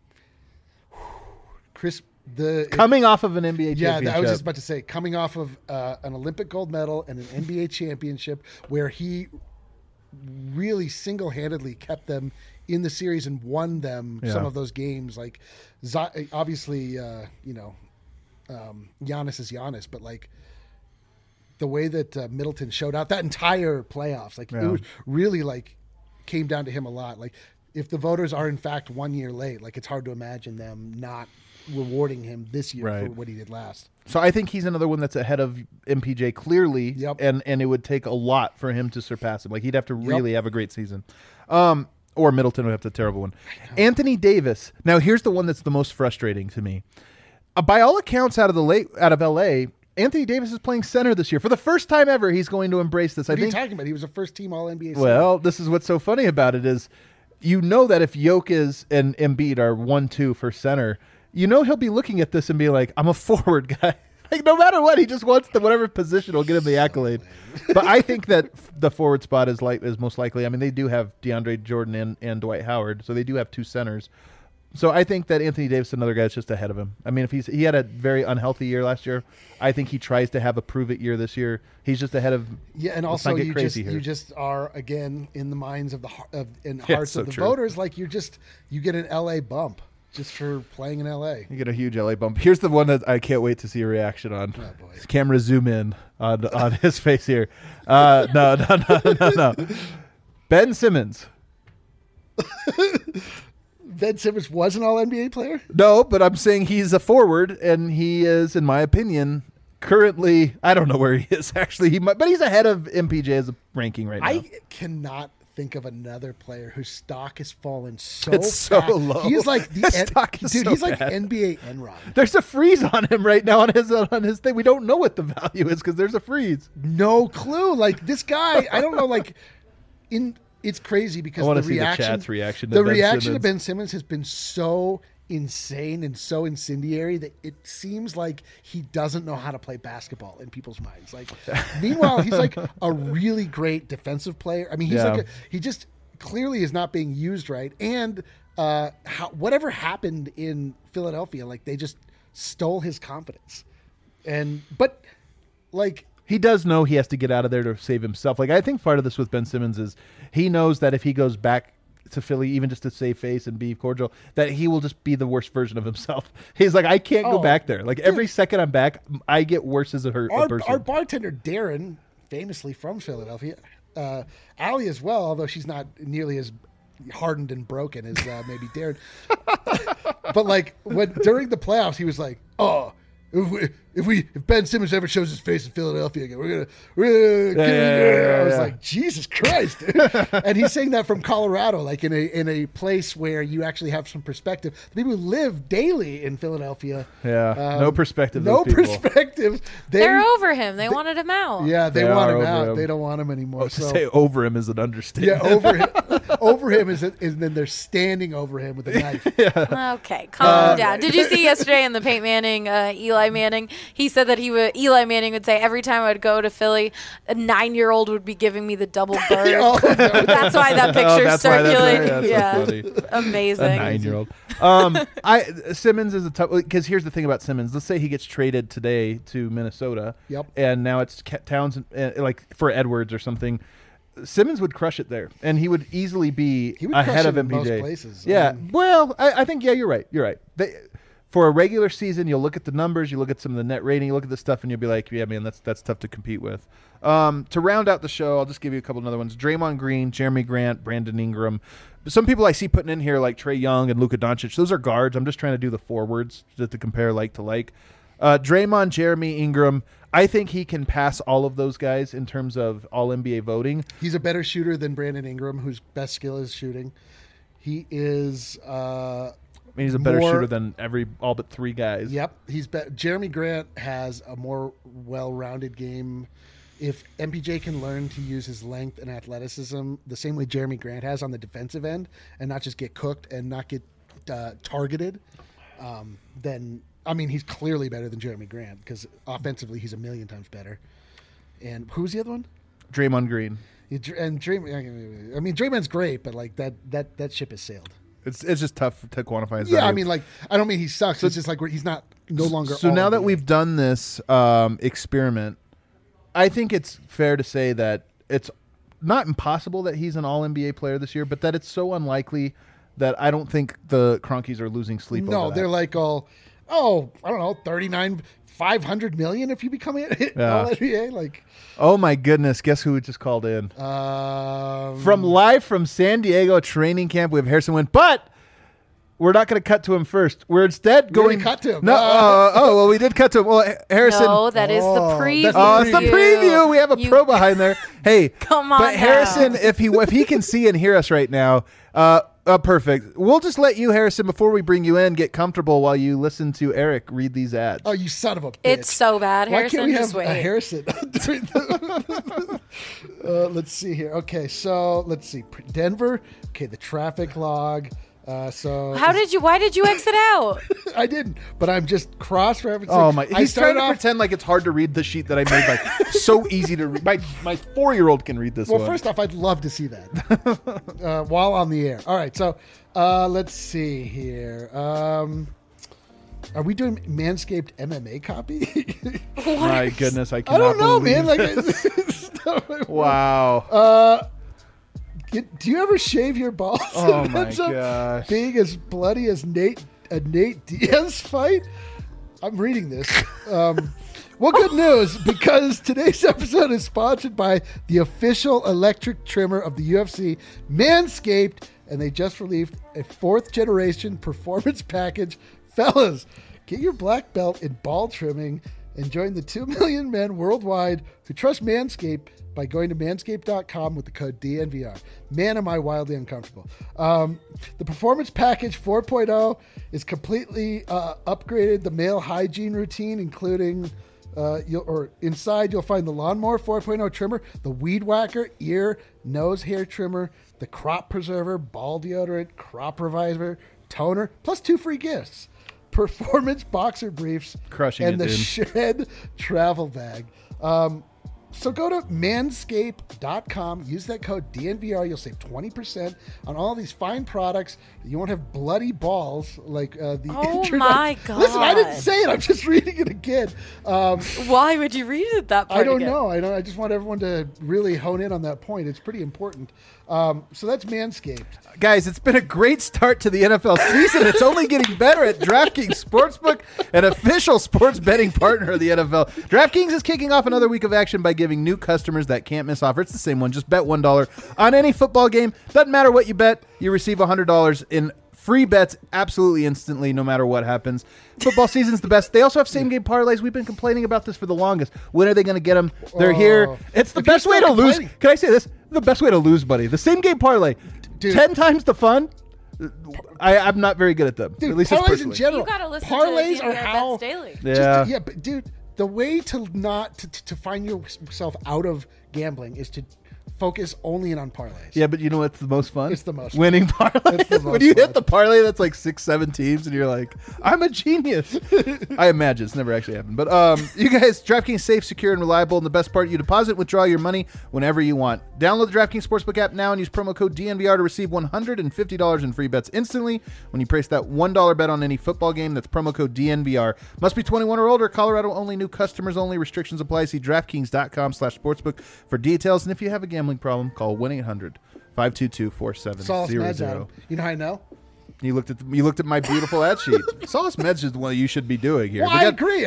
B: Coming off of an NBA championship.
C: Yeah, I was just about to say, coming off of an Olympic gold medal and an NBA championship where he really single-handedly kept them in the series and won them some of those games. Like, obviously, Giannis is Giannis, but like, the way that Middleton showed out that entire playoffs, like it was really like came down to him a lot. Like if the voters are in fact 1 year late, like it's hard to imagine them not rewarding him this year for what he did last.
B: So I think he's another one that's ahead of MPJ clearly, and it would take a lot for him to surpass him. Like he'd have to really have a great season. Or Middleton would have a terrible one. Anthony Davis. Now here's the one that's the most frustrating to me. By all accounts out of LA, Anthony Davis is playing center this year. For the first time ever, he's going to embrace this.
C: What are you talking about? He was a first-team All-NBA center.
B: Well, this is what's so funny about it is, you know that if Jokic and Embiid are 1-2 for center, you know he'll be looking at this and be like, I'm a forward guy. Like, no matter what, he just wants whatever position will get him the accolade. But I think that the forward spot is most likely. I mean, they do have DeAndre Jordan and Dwight Howard, so they do have 2 centers. So I think that Anthony Davis is another guy that's just ahead of him. I mean, if he had a very unhealthy year last year, I think he tries to have a prove-it year this year. He's just ahead of.
C: Yeah, and also you just are again in the minds of and hearts of the voters. Like you get an LA bump just for playing in LA.
B: You get a huge LA bump. Here's the one that I can't wait to see a reaction on.
C: Oh, boy.
B: Camera zoom in on his face here. No. Ben Simmons.
C: Ben Simmons was an All-NBA player?
B: No, but I'm saying he's a forward, and he is, in my opinion, currently, I don't know where he is, actually. But he's ahead of MPJ as a ranking right now.
C: I cannot think of another player whose stock has fallen so
B: it's so low.
C: He's like
B: His stock is so
C: he's like
B: bad.
C: NBA Enron.
B: There's a freeze on him right now on his thing. We don't know what the value is because there's a freeze.
C: No clue. Like this guy, I don't know. Like it's crazy because
B: I want
C: the
B: to see
C: reaction,
B: the chat's reaction.
C: The reaction to Ben Simmons has been so insane and so incendiary that it seems like he doesn't know how to play basketball in people's minds. Like, meanwhile, he's like a really great defensive player. I mean, he's he just clearly is not being used right. And whatever happened in Philadelphia, like they just stole his confidence. But
B: he does know he has to get out of there to save himself. Like I think part of this with Ben Simmons is he knows that if he goes back to Philly, even just to save face and be cordial, that he will just be the worst version of himself. He's like, I can't go back there. Like every second I'm back, I get worse as a person.
C: Our bartender Darren, famously from Philadelphia, Allie as well, although she's not nearly as hardened and broken as maybe Darren. But like during the playoffs, he was like, "Oh, if Ben Simmons ever shows his face in Philadelphia again, we're gonna get in." I was like, Jesus Christ, dude. And he's saying that from Colorado, like in a place where you actually have some perspective. The people who live daily in Philadelphia,
B: no perspective.
C: No perspective.
D: They're over him. They wanted him out.
C: Yeah, they want him out. They don't want him anymore.
B: Well, to say over him is an understatement.
C: Yeah, over him is then they're standing over him with a knife.
D: Okay, calm down. Did you see yesterday in the Peyton Manning, Eli Manning? He said that Eli Manning would say every time I would go to Philly, a 9-year-old would be giving me the double bird. That's why that picture's circulating.
B: So
D: amazing.
B: A 9-year-old. Simmons is a tough, because here's the thing about Simmons. Let's say he gets traded today to Minnesota.
C: Yep.
B: And now it's Towns, like for Edwards or something. Simmons would crush it there, and he would easily be ahead of MPJ.
C: Most places.
B: Yeah. Well, I think you're right. You're right. For a regular season, you'll look at the numbers, you look at some of the net rating, you look at the stuff, and you'll be like, yeah, man, that's tough to compete with. To round out the show, I'll just give you a couple of other ones. Draymond Green, Jeremy Grant, Brandon Ingram. Some people I see putting in here like Trae Young and Luka Doncic. Those are guards. I'm just trying to do the forwards to compare like to like. Draymond, Jeremy, Ingram. I think he can pass all of those guys in terms of all-NBA voting.
C: He's a better shooter than Brandon Ingram, whose best skill is shooting. He is...
B: he's a better shooter than all but 3 guys.
C: Yep. Jeremy Grant has a more well-rounded game. If MPJ can learn to use his length and athleticism the same way Jeremy Grant has on the defensive end and not just get cooked and not get targeted, then, he's clearly better than Jeremy Grant because offensively he's a million times better. And who's the other one?
B: Draymond Green.
C: And Draymond's great, but like that ship has sailed.
B: It's just tough to quantify his
C: value.
B: value.
C: I don't mean he sucks. It's just like he's not no longer.
B: So now that we've done this experiment, I think it's fair to say that it's not impossible that he's an all-NBA player this year, but that it's so unlikely that I don't think the Cronkies are losing sleep over that.
C: No, they're like I don't know, 39, 500 million if you become all NBA. Like,
B: oh my goodness, guess who just called in? From San Diego training camp, we have Harrison Wind, but we're not going to cut to him first. We're instead going.
C: Cut to him.
B: No, well, we did cut to him. Well, Harrison.
D: No, that is the preview.
B: It's the preview. We have a pro behind there. Hey,
D: come on.
B: But Harrison, if he can see and hear us right now, perfect. We'll just let you, Harrison, before we bring you in, get comfortable while you listen to Eric read these ads.
C: Oh, you son of a bitch!
D: It's so bad, Harrison.
C: Why can't we
D: just
C: have
D: wait.
C: a Harrison? Let's see here. Okay, so let's see. Denver. Okay, the traffic log.
D: Why did you exit out?
C: I didn't, but I'm just cross-referencing.
B: Oh my! He's trying to pretend like it's hard to read the sheet that I made. Like so easy to read. My 4-year-old can read this.
C: Well, first off, I'd love to see that while on the air. All right, so let's see here. Are we doing Manscaped MMA copy?
B: My goodness, I cannot.
C: I don't know, man.
B: Like, wow.
C: Do you ever shave your balls?
B: Oh my gosh!
C: Being as bloody as Nate Diaz fight. I'm reading this. Well, good news, because today's episode is sponsored by the official electric trimmer of the UFC, Manscaped, and they just released a 4th generation performance package. Fellas, get your black belt in ball trimming and join the 2 million men worldwide who trust Manscaped by going to manscaped.com with the code DNVR. Man, am I wildly uncomfortable. The Performance Package 4.0 is completely upgraded the male hygiene routine, including inside you'll find the Lawnmower 4.0 trimmer, the Weed Whacker ear, nose hair trimmer, the Crop Preserver, ball deodorant, crop reviver, toner, plus 2 free gifts. Performance boxer briefs,
B: crushing
C: and
B: it,
C: the
B: dude.
C: Shred travel bag. So go to manscaped.com, use that code DNVR. You'll save 20% on all these fine products. You won't have bloody balls like the
D: Oh
C: internet.
D: my God.
C: Listen, I didn't say it. I'm just reading it again.
D: Why would you read it that part
C: I don't
D: again?
C: know. I just want everyone to really hone in on that point. It's pretty important. So that's Manscaped.
B: Guys, it's been a great start to the NFL season. It's only getting better at DraftKings Sportsbook, an official sports betting partner of the NFL. DraftKings is kicking off another week of action by giving new customers that can't miss offer. It's the same one. Just bet $1 on any football game. Doesn't matter what you bet. You receive $100 in free bets absolutely instantly, no matter what happens. Football season's the best. They also have same-game parlays. We've been complaining about this for the longest. When are they going to get them? They're here. It's the best way to lose. Can I say this? The best way to lose, buddy. The same-game parlay.
C: Dude.
B: 10 times the fun. I'm not very good at them.
C: Dude,
B: at least
C: parlays in
B: personally.
C: general.
D: You gotta listen
C: parlays
D: to
C: are
D: DNVR
C: how
D: Bets Daily.
B: Yeah.
C: But dude, the way to not to find yourself out of gambling is to focus only in on parlays.
B: Yeah, but you know what's the most fun?
C: It's the most fun.
B: winning parlay.
C: It's the most
B: When you
C: fun.
B: hit the parlay that's like 6-7 teams and you're like, I'm a genius. I imagine it's never actually happened. But you guys, DraftKings safe, secure, and reliable. And the best part, you deposit, withdraw your money whenever you want. Download the DraftKings Sportsbook app now and use promo code DNVR to receive $150 in free bets instantly when you place that $1 bet on any football game. That's promo code DNVR. Must be 21 or older. Colorado only. New customers only. Restrictions apply. See DraftKings.com/sportsbook for details. And if you have a gambling problem, call 1-800-522-4700.
C: Solace Meds, Adam. You know how I know?
B: You looked at my beautiful ad sheet. Solace Meds is the one you should be doing here.
C: Well,
B: We
C: I
B: got-
C: agree.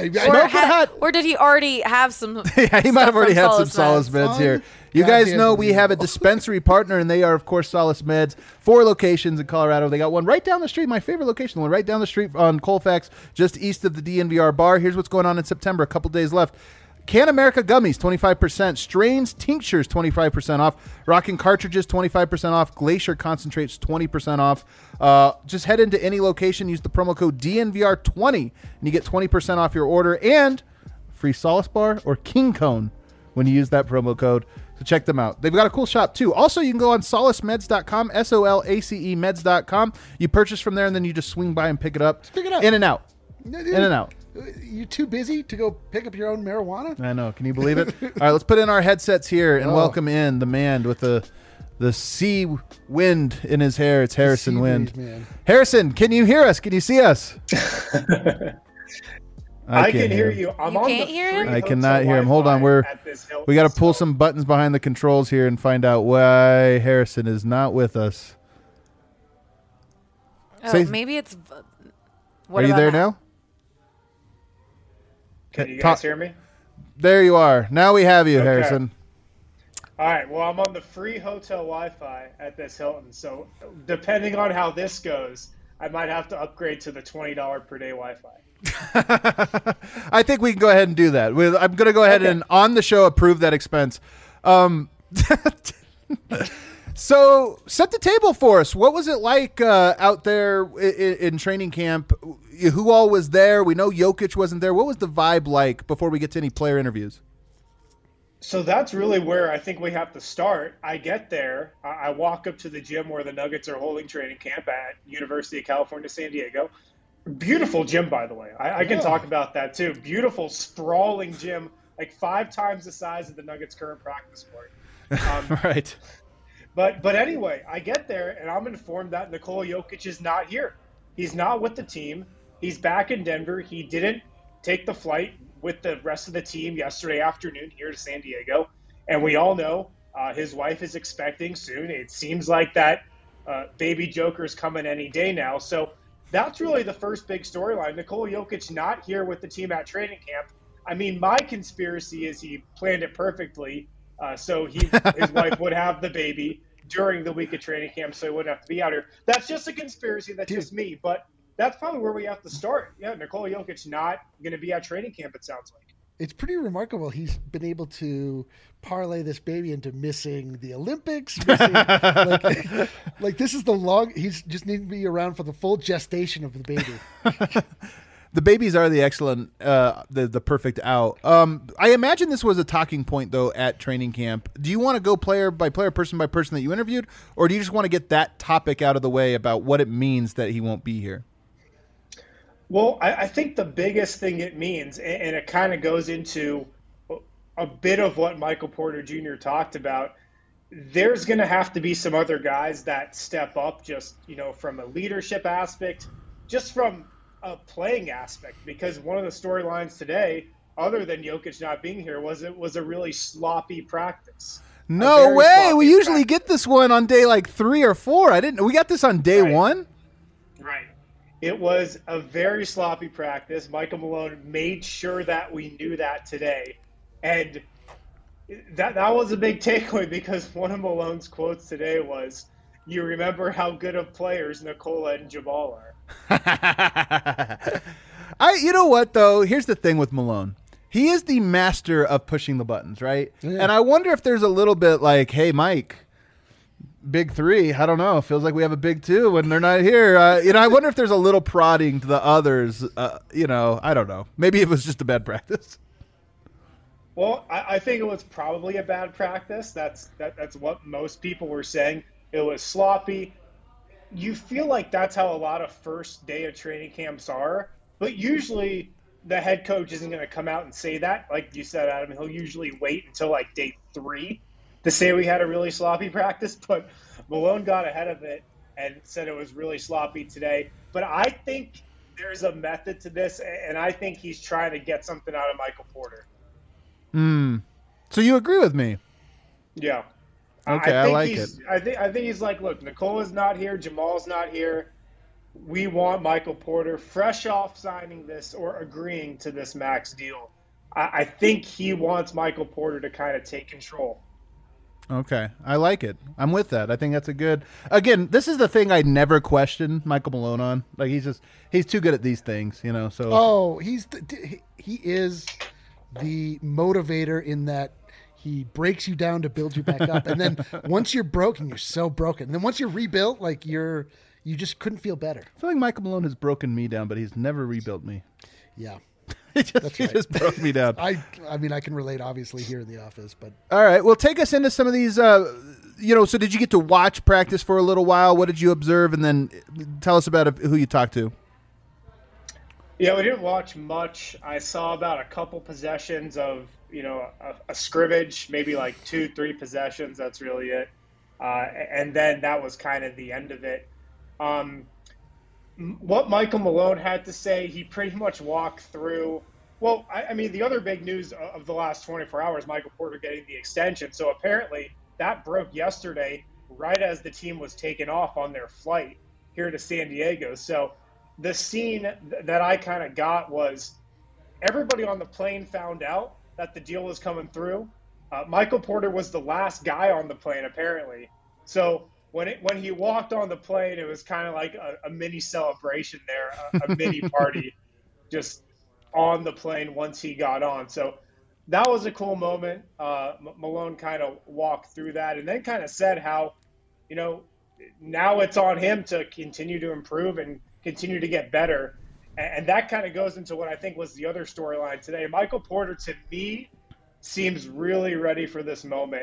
D: Or did he already have some?
B: Yeah, he might have already had some
D: Solace
B: Solace Meds here.
C: Fun.
B: You guys
C: Goddamn
B: know we
C: believe
B: have a dispensary partner, and they are, of course, Solace Meds. 4 locations in Colorado. They got one right down the street, my favorite location, the one right down the street on Colfax, just east of the DNVR bar. Here's what's going on in September. A couple days left. Can America gummies, 25%. Strains tinctures, 25% off. Rockin' cartridges, 25% off. Glacier concentrates, 20% off. Just head into any location, use the promo code DNVR20, and you get 20% off your order and free Solace Bar or King Cone when you use that promo code. So check them out. They've got a cool shop too. Also, you can go on solacemeds.com, SOLACE meds.com. You purchase from there and then you just swing by and pick it up.
C: Pick it up.
B: In and out.
C: No,
B: In and out.
C: You too busy to go pick up your own marijuana?
B: I know. Can you believe it? All right, let's put in our headsets here and welcome in the man with the sea wind in his hair. It's Harrison
C: sea
B: Wind.
C: breeze, man.
B: Harrison, can you hear us? Can you see us?
F: I
B: can't
F: can hear
B: him.
F: you. I'm
D: You
F: on
D: can't
F: the
D: hear him?
F: free
B: I cannot
F: hotel
B: hear him. Hold on,
F: Wi-Fi at this Hilton,
B: We got to pull
F: so-
B: some buttons behind the controls here and find out why Harrison is not with us.
D: Oh,
B: Say-
D: maybe it's.
B: Are you there now?
F: Can you
B: Talk-
F: guys hear me?
B: There you are. Now we have you,
F: Okay.
B: Harrison.
F: All right. Well, I'm on the free hotel Wi-Fi at this Hilton, so depending on how this goes, I might have to upgrade to the $20 per day Wi-Fi.
B: I think we can go ahead and do that. I'm going to go ahead and on the show approve that expense. So set the table for us. What was it like out there in training camp? Who all was there? We know Jokic wasn't there. What was the vibe like before we get to any player interviews?
F: So that's really where I think we have to start. I get there. I walk up to the gym where the Nuggets are holding training camp at University of California, San Diego. Beautiful gym, by the way. I can talk about that too. Beautiful, sprawling gym, like 5 times the size of the Nuggets' current practice court.
B: Right.
F: But anyway, I get there and I'm informed that Nikola Jokic is not here. He's not with the team. He's back in Denver. He didn't take the flight with the rest of the team yesterday afternoon here to San Diego. And we all know his wife is expecting soon. It seems like that baby Joker's coming any day now. So that's really the first big storyline. Nikola Jokic not here with the team at training camp. I mean, my conspiracy is he planned it perfectly. So his wife would have the baby during the week of training camp, so he wouldn't have to be out here. That's just a conspiracy. That's just me. But that's probably where we have to start. Yeah, Nikola Jokic not going to be at training camp, it sounds like.
C: It's pretty remarkable. He's been able to parlay this baby into missing the Olympics. Like this is the long. He's just needing to be around for the full gestation of the baby.
B: The babies are the excellent, the perfect out. I imagine this was a talking point, though, at training camp. Do you want to go player by player, person by person that you interviewed, or do you just want to get that topic out of the way about what it means that he won't be here?
F: Well, I think the biggest thing it means, and it kind of goes into a bit of what Michael Porter Jr. talked about. There's going to have to be some other guys that step up just, from a leadership aspect, just from a playing aspect, because one of the storylines today, other than Jokic not being here, was it was a really sloppy practice.
B: No way. We usually get this one on day like 3 or 4. We got this on day 1.
F: Right. It was a very sloppy practice. Michael Malone made sure that we knew that today. And that was a big takeaway, because one of Malone's quotes today was, "You remember how good of players Nikola and Jamal are."
B: You know what, though? Here's the thing with Malone. He is the master of pushing the buttons, right? Yeah. And I wonder if there's a little bit like, hey, Mike, big 3, I don't know. Feels like we have a big 2 when they're not here. I wonder if there's a little prodding to the others. I don't know. Maybe it was just a bad practice.
F: Well, I think it was probably a bad practice. That's what most people were saying. It was sloppy. You feel like that's how a lot of first day of training camps are, but usually the head coach isn't going to come out and say that. Like you said, Adam, he'll usually wait until like day 3 to say we had a really sloppy practice, but Malone got ahead of it and said it was really sloppy today. But I think there's a method to this, and I think he's trying to get something out of Michael Porter.
B: So you agree with me?
F: Yeah.
B: Okay, I like it.
F: I think he's like, look, Nikola's not here, Jamal's not here. We want Michael Porter fresh off signing this or agreeing to this max deal. I think he wants Michael Porter to kind of take control.
B: Okay, I like it. I'm with that. I think that's a good. Again, this is the thing I never question Michael Malone on. Like he's too good at these things, So
C: he is the motivator in that he breaks you down to build you back up, and then once you're broken, you're so broken. And then once you're rebuilt, like you just couldn't feel better.
B: I feel like Michael Malone has broken me down, but he's never rebuilt me.
C: Yeah.
B: He just broke me down.
C: I mean, I can relate, obviously, here in the office. But
B: all right, well, take us into some of these. So did you get to watch practice for a little while? What did you observe, and then tell us about who you talked to?
F: Yeah, we didn't watch much. I saw about a couple possessions of a scrimmage, maybe like 2-3 possessions. That's really it, and then that was kind of the end of it. What Michael Malone had to say, he pretty much walked through. Well, I mean, the other big news of the last 24 hours, Michael Porter getting the extension. So apparently that broke yesterday, right as the team was taking off on their flight here to San Diego. So the scene that I kind of got was everybody on the plane found out that the deal was coming through. Michael Porter was the last guy on the plane, apparently. So when he walked on the plane, it was kind of like a mini celebration there, a mini party just on the plane once he got on. So that was a cool moment. Malone kind of walked through that and then kind of said how, now it's on him to continue to improve and continue to get better. And that kind of goes into what I think was the other storyline today. Michael Porter, to me, seems really ready for this moment.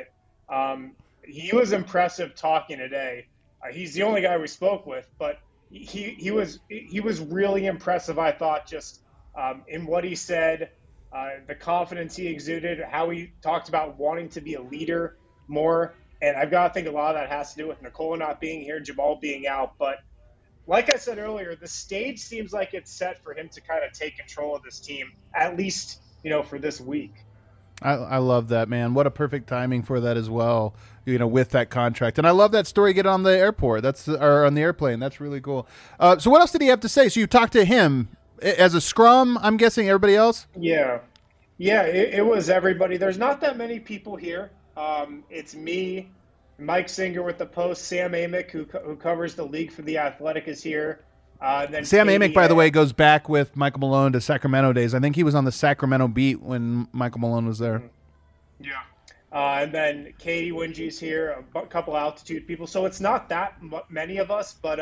F: He was impressive talking today. He's the only guy we spoke with, but he was really impressive, I thought, just in what he said, the confidence he exuded, how he talked about wanting to be a leader more. And I've got to think a lot of that has to do with Nikola not being here, Jamal being out. But like I said earlier, the stage seems like it's set for him to kind of take control of this team, at least, for this week.
B: I love that, man. What a perfect timing for that as well, with that contract. And I love that story getting on the airport. Or on the airplane. That's really cool. So what else did he have to say? So you talked to him as a scrum, I'm guessing, everybody else?
F: Yeah. Yeah, it was everybody. There's not that many people here. It's me, Mike Singer with the Post, Sam Amick, who covers the league for The Athletic, is here. Then
B: Sam Amick, by the way, goes back with Michael Malone to Sacramento days. I think he was on the Sacramento beat when Michael Malone was there.
F: Yeah. And then Katie Wingy's here, a couple altitude people. So it's not that many of us, but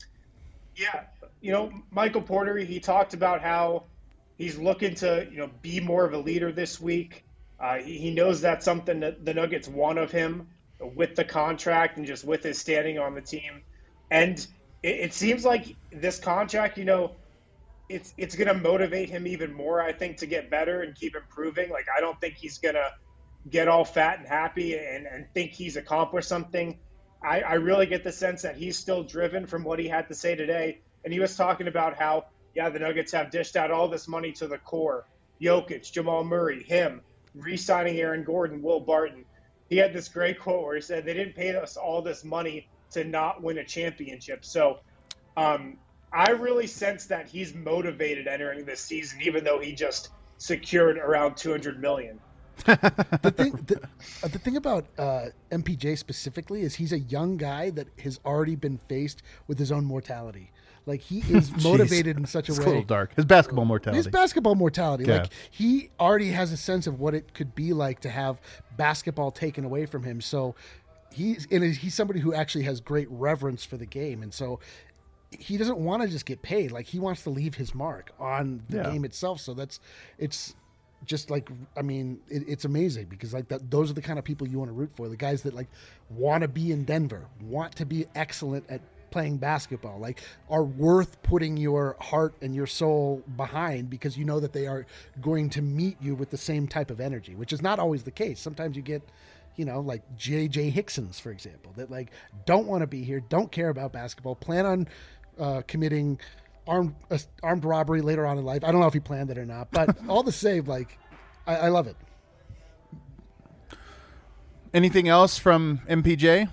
F: Michael Porter, he talked about how he's looking to, be more of a leader this week. He knows that's something that the Nuggets want of him with the contract and just with his standing on the team. And it seems like this contract, it's going to motivate him even more, I think, to get better and keep improving. Like, I don't think he's going to get all fat and happy and think he's accomplished something. I really get the sense that he's still driven from what he had to say today. And he was talking about how, yeah, the Nuggets have dished out all this money to the core. Jokic, Jamal Murray, him, re-signing Aaron Gordon, Will Barton. He had this great quote where he said, they didn't pay us all this money to not win a championship. So I really sense that he's motivated entering this season, even though he just secured around $200 million.
C: The thing about MPJ specifically is he's a young guy that has already been faced with his own mortality. Like, he is motivated in such a way.
B: It's a little dark. His basketball mortality.
C: Yeah.
B: Yeah.
C: Like, he already has a sense of what it could be like to have basketball taken away from him. So he's somebody who actually has great reverence for the game. And so he doesn't want to just get paid. Like, he wants to leave his mark on the game itself. So it's just like, I mean, it's amazing because like those are the kind of people you want to root for. The guys that like want to be in Denver, want to be excellent at playing basketball, like are worth putting your heart and your soul behind because you know that they are going to meet you with the same type of energy, which is not always the case. Sometimes you get, you know, like J.J. Hicksons, for example, that like don't want to be here, don't care about basketball, plan on committing armed robbery later on in life. I don't know if he planned it or not, but all the same, like I love it.
B: Anything else from MPJ?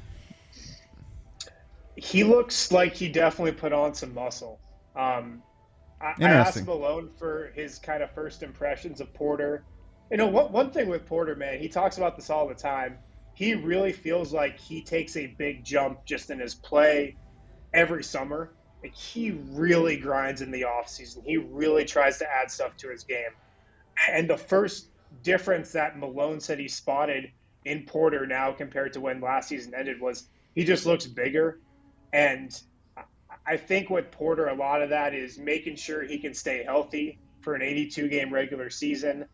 F: He looks like he definitely put on some muscle. I asked Malone for his kind of first impressions of Porter. You know, one thing with Porter, man, he talks about this all the time. He really feels like he takes a big jump just in his play every summer. Like, he really grinds in the offseason. He really tries to add stuff to his game. And the first difference that Malone said he spotted in Porter now compared to when last season ended was he just looks bigger. And I think with Porter, a lot of that is making sure he can stay healthy for an 82-game regular season.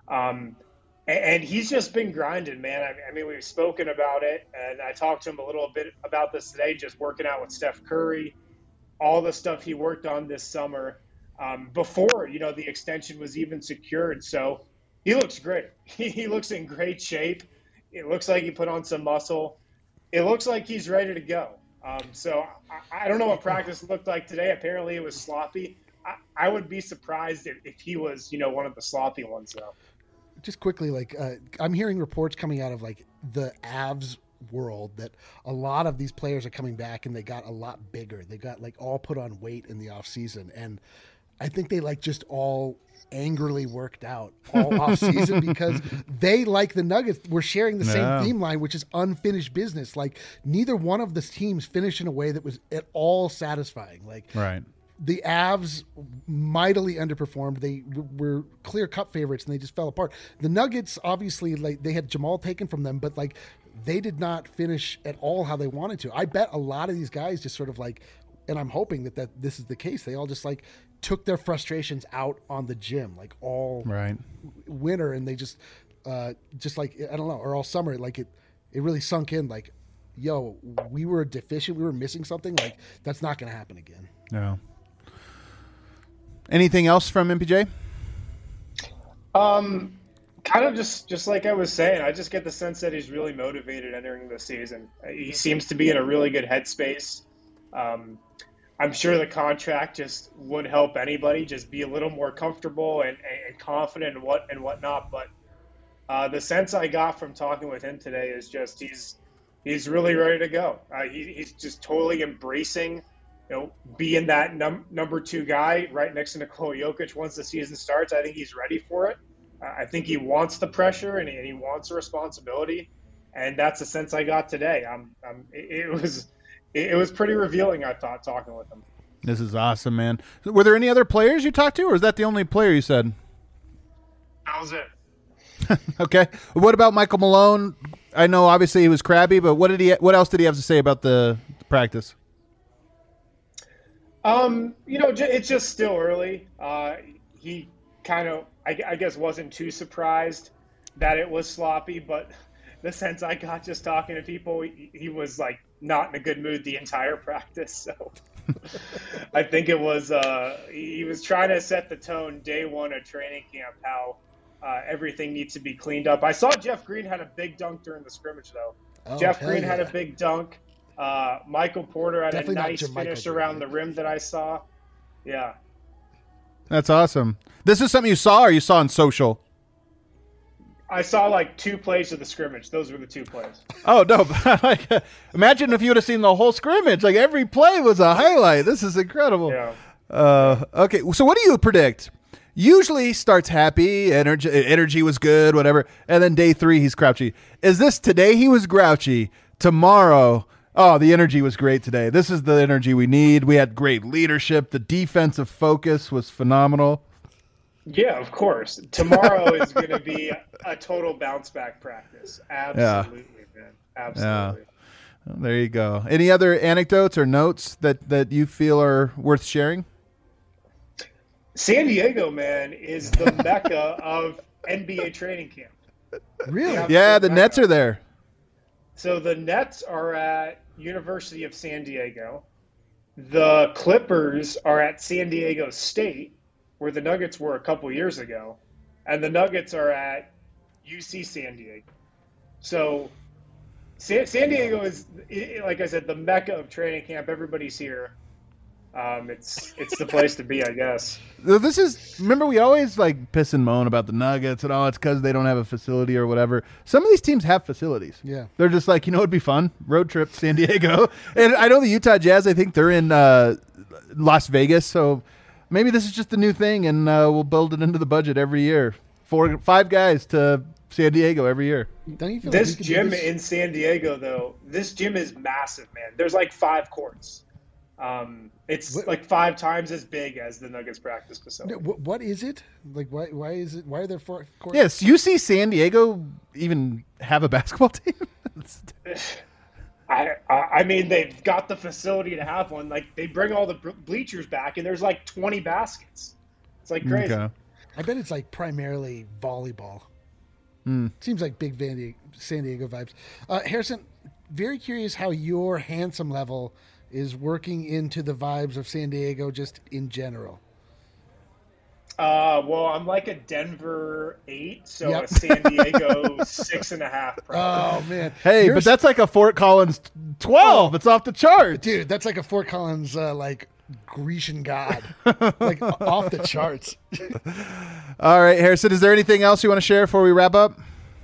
F: And he's just been grinding, man. I mean, we've spoken about it, and I talked to him a little bit about this today, just working out with Steph Curry, all the stuff he worked on this summer before, you know, the extension was even secured. So he looks great. He looks in great shape. It looks like he put on some muscle. It looks like he's ready to go. So I don't know what practice looked like today. Apparently it was sloppy. I would be surprised if he was, you know, one of the sloppy ones, though.
C: Just quickly, like I'm hearing reports coming out of like the Avs world that a lot of these players are coming back and they got a lot bigger. They got like all put on weight in the off season, and I think they like just all angrily worked out all off season because they, like the Nuggets, were sharing the same theme line, which is unfinished business. Like, neither one of the teams finished in a way that was at all satisfying. Like,
B: right.
C: The Avs mightily underperformed. They were clear cup favorites and they just fell apart. The Nuggets, obviously, like, they had Jamal taken from them, but like they did not finish at all how they wanted to. I bet a lot of these guys just sort of like, and I'm hoping that this is the case, they all just like took their frustrations out on the gym, like all winter, and they just like, I don't know, or all summer, like it really sunk in, like, yo, we were deficient, we were missing something, like that's not going to happen again.
B: No. Anything else from MPJ?
F: Kind of just like I was saying, I just get the sense that he's really motivated entering the season. He seems to be in a really good headspace. I'm sure the contract just would help anybody just be a little more comfortable and confident and whatnot. But the sense I got from talking with him today is just he's really ready to go. He's just totally embracing, you know, being that number two guy right next to Nikola Jokic once the season starts. I think he's ready for it. I think he wants the pressure and he wants the responsibility, and that's the sense I got today. It was pretty revealing, I thought, talking with him.
B: This is awesome, man. Were there any other players you talked to, or is that the only player you said?
F: That was it.
B: Okay. What about Michael Malone? I know obviously he was crabby, but what else did he have to say about the practice?
F: You know, it's just still early. He kind of, I guess, wasn't too surprised that it was sloppy, but the sense I got just talking to people, he was like not in a good mood the entire practice. So I think it was he was trying to set the tone day one of training camp, how everything needs to be cleaned up. I saw Jeff Green had a big dunk during the scrimmage, though.
C: Oh,
F: Jeff Green had a big dunk. Michael Porter had
C: Definitely
F: a
C: not
F: nice
C: Jermichael
F: finish
C: Green,
F: around
C: right?
F: the rim that I saw. Yeah.
B: That's awesome. This is something you saw or you saw on social?
F: I saw like 2 plays of the scrimmage. Those were the 2 plays.
B: Oh, no. Imagine if you would have seen the whole scrimmage. Like, every play was a highlight. This is incredible.
F: Yeah.
B: Okay, so what do you predict? Usually starts happy, energy was good, whatever, and then day 3 he's grouchy. Is this today he was grouchy, tomorrow, oh, the energy was great today. This is the energy we need. We had great leadership. The defensive focus was phenomenal.
F: Yeah, of course. Tomorrow is going to be a total bounce back practice. Absolutely, man. Absolutely.
B: Well, there you go. Any other anecdotes or notes that you feel are worth sharing?
F: San Diego, man, is the mecca of NBA training camp.
C: Really?
B: Yeah, the Nets are there.
F: So the Nets are at University of San Diego. The Clippers are at San Diego State, where the Nuggets were a couple years ago. And the Nuggets are at UC San Diego. So San Diego is, like I said, the mecca of training camp. Everybody's here. It's the place to be, I guess.
B: This is, remember, we always like piss and moan about the Nuggets and all. It's because they don't have a facility or whatever. Some of these teams have facilities.
C: Yeah.
B: They're just like, it'd be fun. Road trip to San Diego. And I know the Utah Jazz, I think they're in Las Vegas. So maybe this is just the new thing, and we'll build it into the budget every year. 5 guys to San Diego every year.
C: Don't you feel
F: This
C: like we could do
F: gym
C: this?
F: in San Diego, though, this gym is massive, man. There's like 5 courts. It's like 5 times as big as the Nuggets practice facility.
C: What is it? Like, why is it? Why are there 4 courts?
B: Yes, you see San Diego even have a basketball team?
F: I mean, they've got the facility to have one. Like, they bring all the bleachers back, and there's like 20 baskets. It's like crazy.
B: Okay.
C: I bet it's like primarily volleyball. Seems like big San Diego vibes. Harrison, very curious how your handsome level is working into the vibes of San Diego just in general.
F: Well, I'm like a Denver 8, so
C: Yep.
F: a San Diego 6.5. Probably.
C: Oh, man.
B: Hey,
C: You're
B: but that's like a Fort Collins 12. It's off the charts.
C: Dude, that's like a Fort Collins, like, Grecian god. Like, off the charts.
B: All right, Harrison, is there anything else you want to share before we wrap up?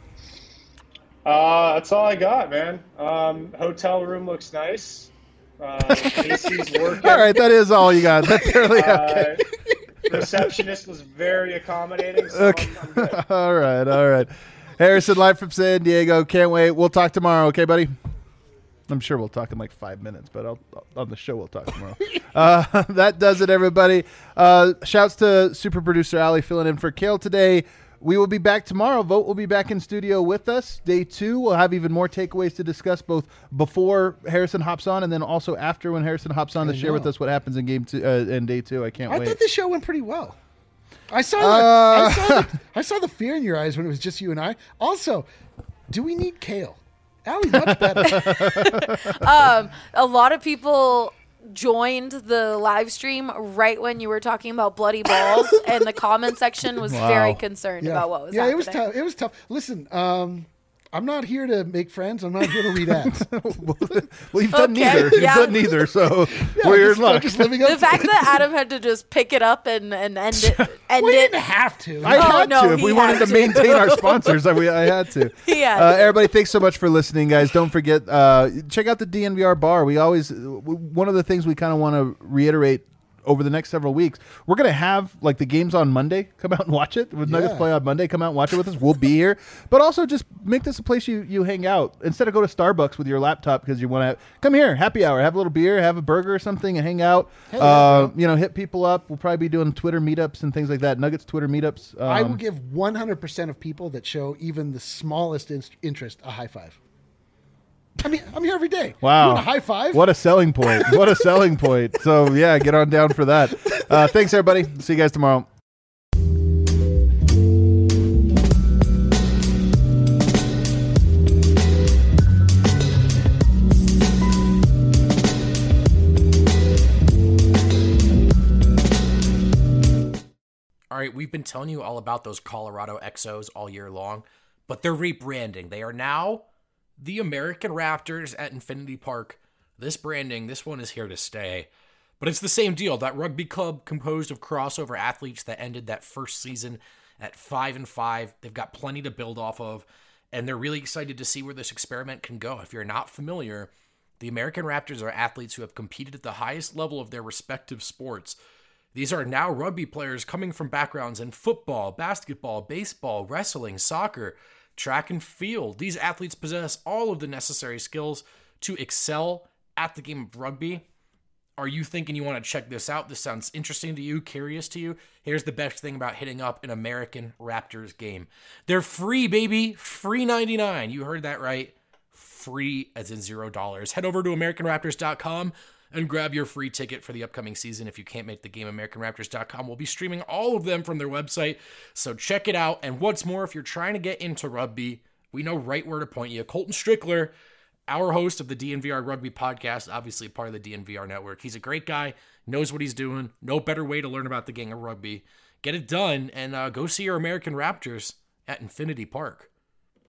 F: That's all I got, man. Hotel room looks nice. AC's working.
B: All right, that is all you got. That's fairly okay.
F: Receptionist was very accommodating. So
B: Okay.
F: I'm good.
B: All right. Harrison, live from San Diego. Can't wait. We'll talk tomorrow, okay, buddy? I'm sure we'll talk in like 5 minutes, but on the show we'll talk tomorrow. That does it, everybody. Shouts to super producer Ali filling in for Kale today. We will be back tomorrow. Vogt will be back in studio with us. Day 2, we'll have even more takeaways to discuss, both before Harrison hops on and then also after when Harrison hops on to share with us what happens in game 2 in day 2. I can't
C: I
B: wait.
C: thought the show went pretty well. I saw I saw the fear in your eyes when it was just you and I. Also, do we need Kale? Allie, much better.
D: A lot of people joined the live stream right when you were talking about bloody balls, and the comment section was very concerned about what was happening.
C: it was tough. It was tough. Listen, I'm not here to make friends. I'm not here to read ads.
B: Well, you've done
D: Okay,
B: neither. You've
D: yeah.
B: done neither, so we're in luck.
C: Just living up
D: The
C: to
D: fact that Adam had to just pick it up and end it.
C: we didn't have to.
B: I had
D: no,
B: to. If
D: he
B: we wanted
D: had
B: to
D: to.
B: maintain our sponsors, I had to.
D: He had to.
B: Everybody, thanks so much for listening, guys. Don't forget, check out the DNVR bar. One of the things we kind of want to reiterate over the next several weeks, we're going to have like the games on Monday. Come out and watch it. With Nuggets play on Monday, come out and watch it with us. We'll be here. But also just make this a place you hang out. Instead of go to Starbucks with your laptop because you want to come here, happy hour, have a little beer, have a burger or something and hang out. Hit people up. We'll probably be doing Twitter meetups and things like that. Nuggets Twitter meetups.
C: I will give 100% of people that show even the smallest interest a high five. I mean, I'm here every day.
B: Wow.
C: You want a high five?
B: What a selling point. What a selling point. So, yeah, get on down for that. Thanks, everybody. See you guys tomorrow.
A: right? We've been telling you all about those Colorado Exos all year long, but they're rebranding. They are now the American Raptors at Infinity Park. This branding, this one is here to stay. But it's the same deal. That rugby club composed of crossover athletes that ended that first season at 5-5. They've got plenty to build off of, and they're really excited to see where this experiment can go. If you're not familiar, the American Raptors are athletes who have competed at the highest level of their respective sports. These are now rugby players coming from backgrounds in football, basketball, baseball, wrestling, soccer, track and field. These athletes possess all of the necessary skills to excel at the game of rugby. Are you thinking you want to check this out? This sounds interesting to you, curious to you? Here's the best thing about hitting up an American Raptors game. They're free, baby. Free 99. You heard that right. Free as in $0. Head over to AmericanRaptors.com and grab your free ticket for the upcoming season. If you can't make the game, AmericanRaptors.com will be streaming all of them from their website. So check it out. And what's more, if you're trying to get into rugby, we know right where to point you. Colton Strickler, our host of the DNVR Rugby Podcast, obviously part of the DNVR network. He's a great guy, knows what he's doing. No better way to learn about the game of rugby. Get it done and go see your American Raptors at Infinity Park.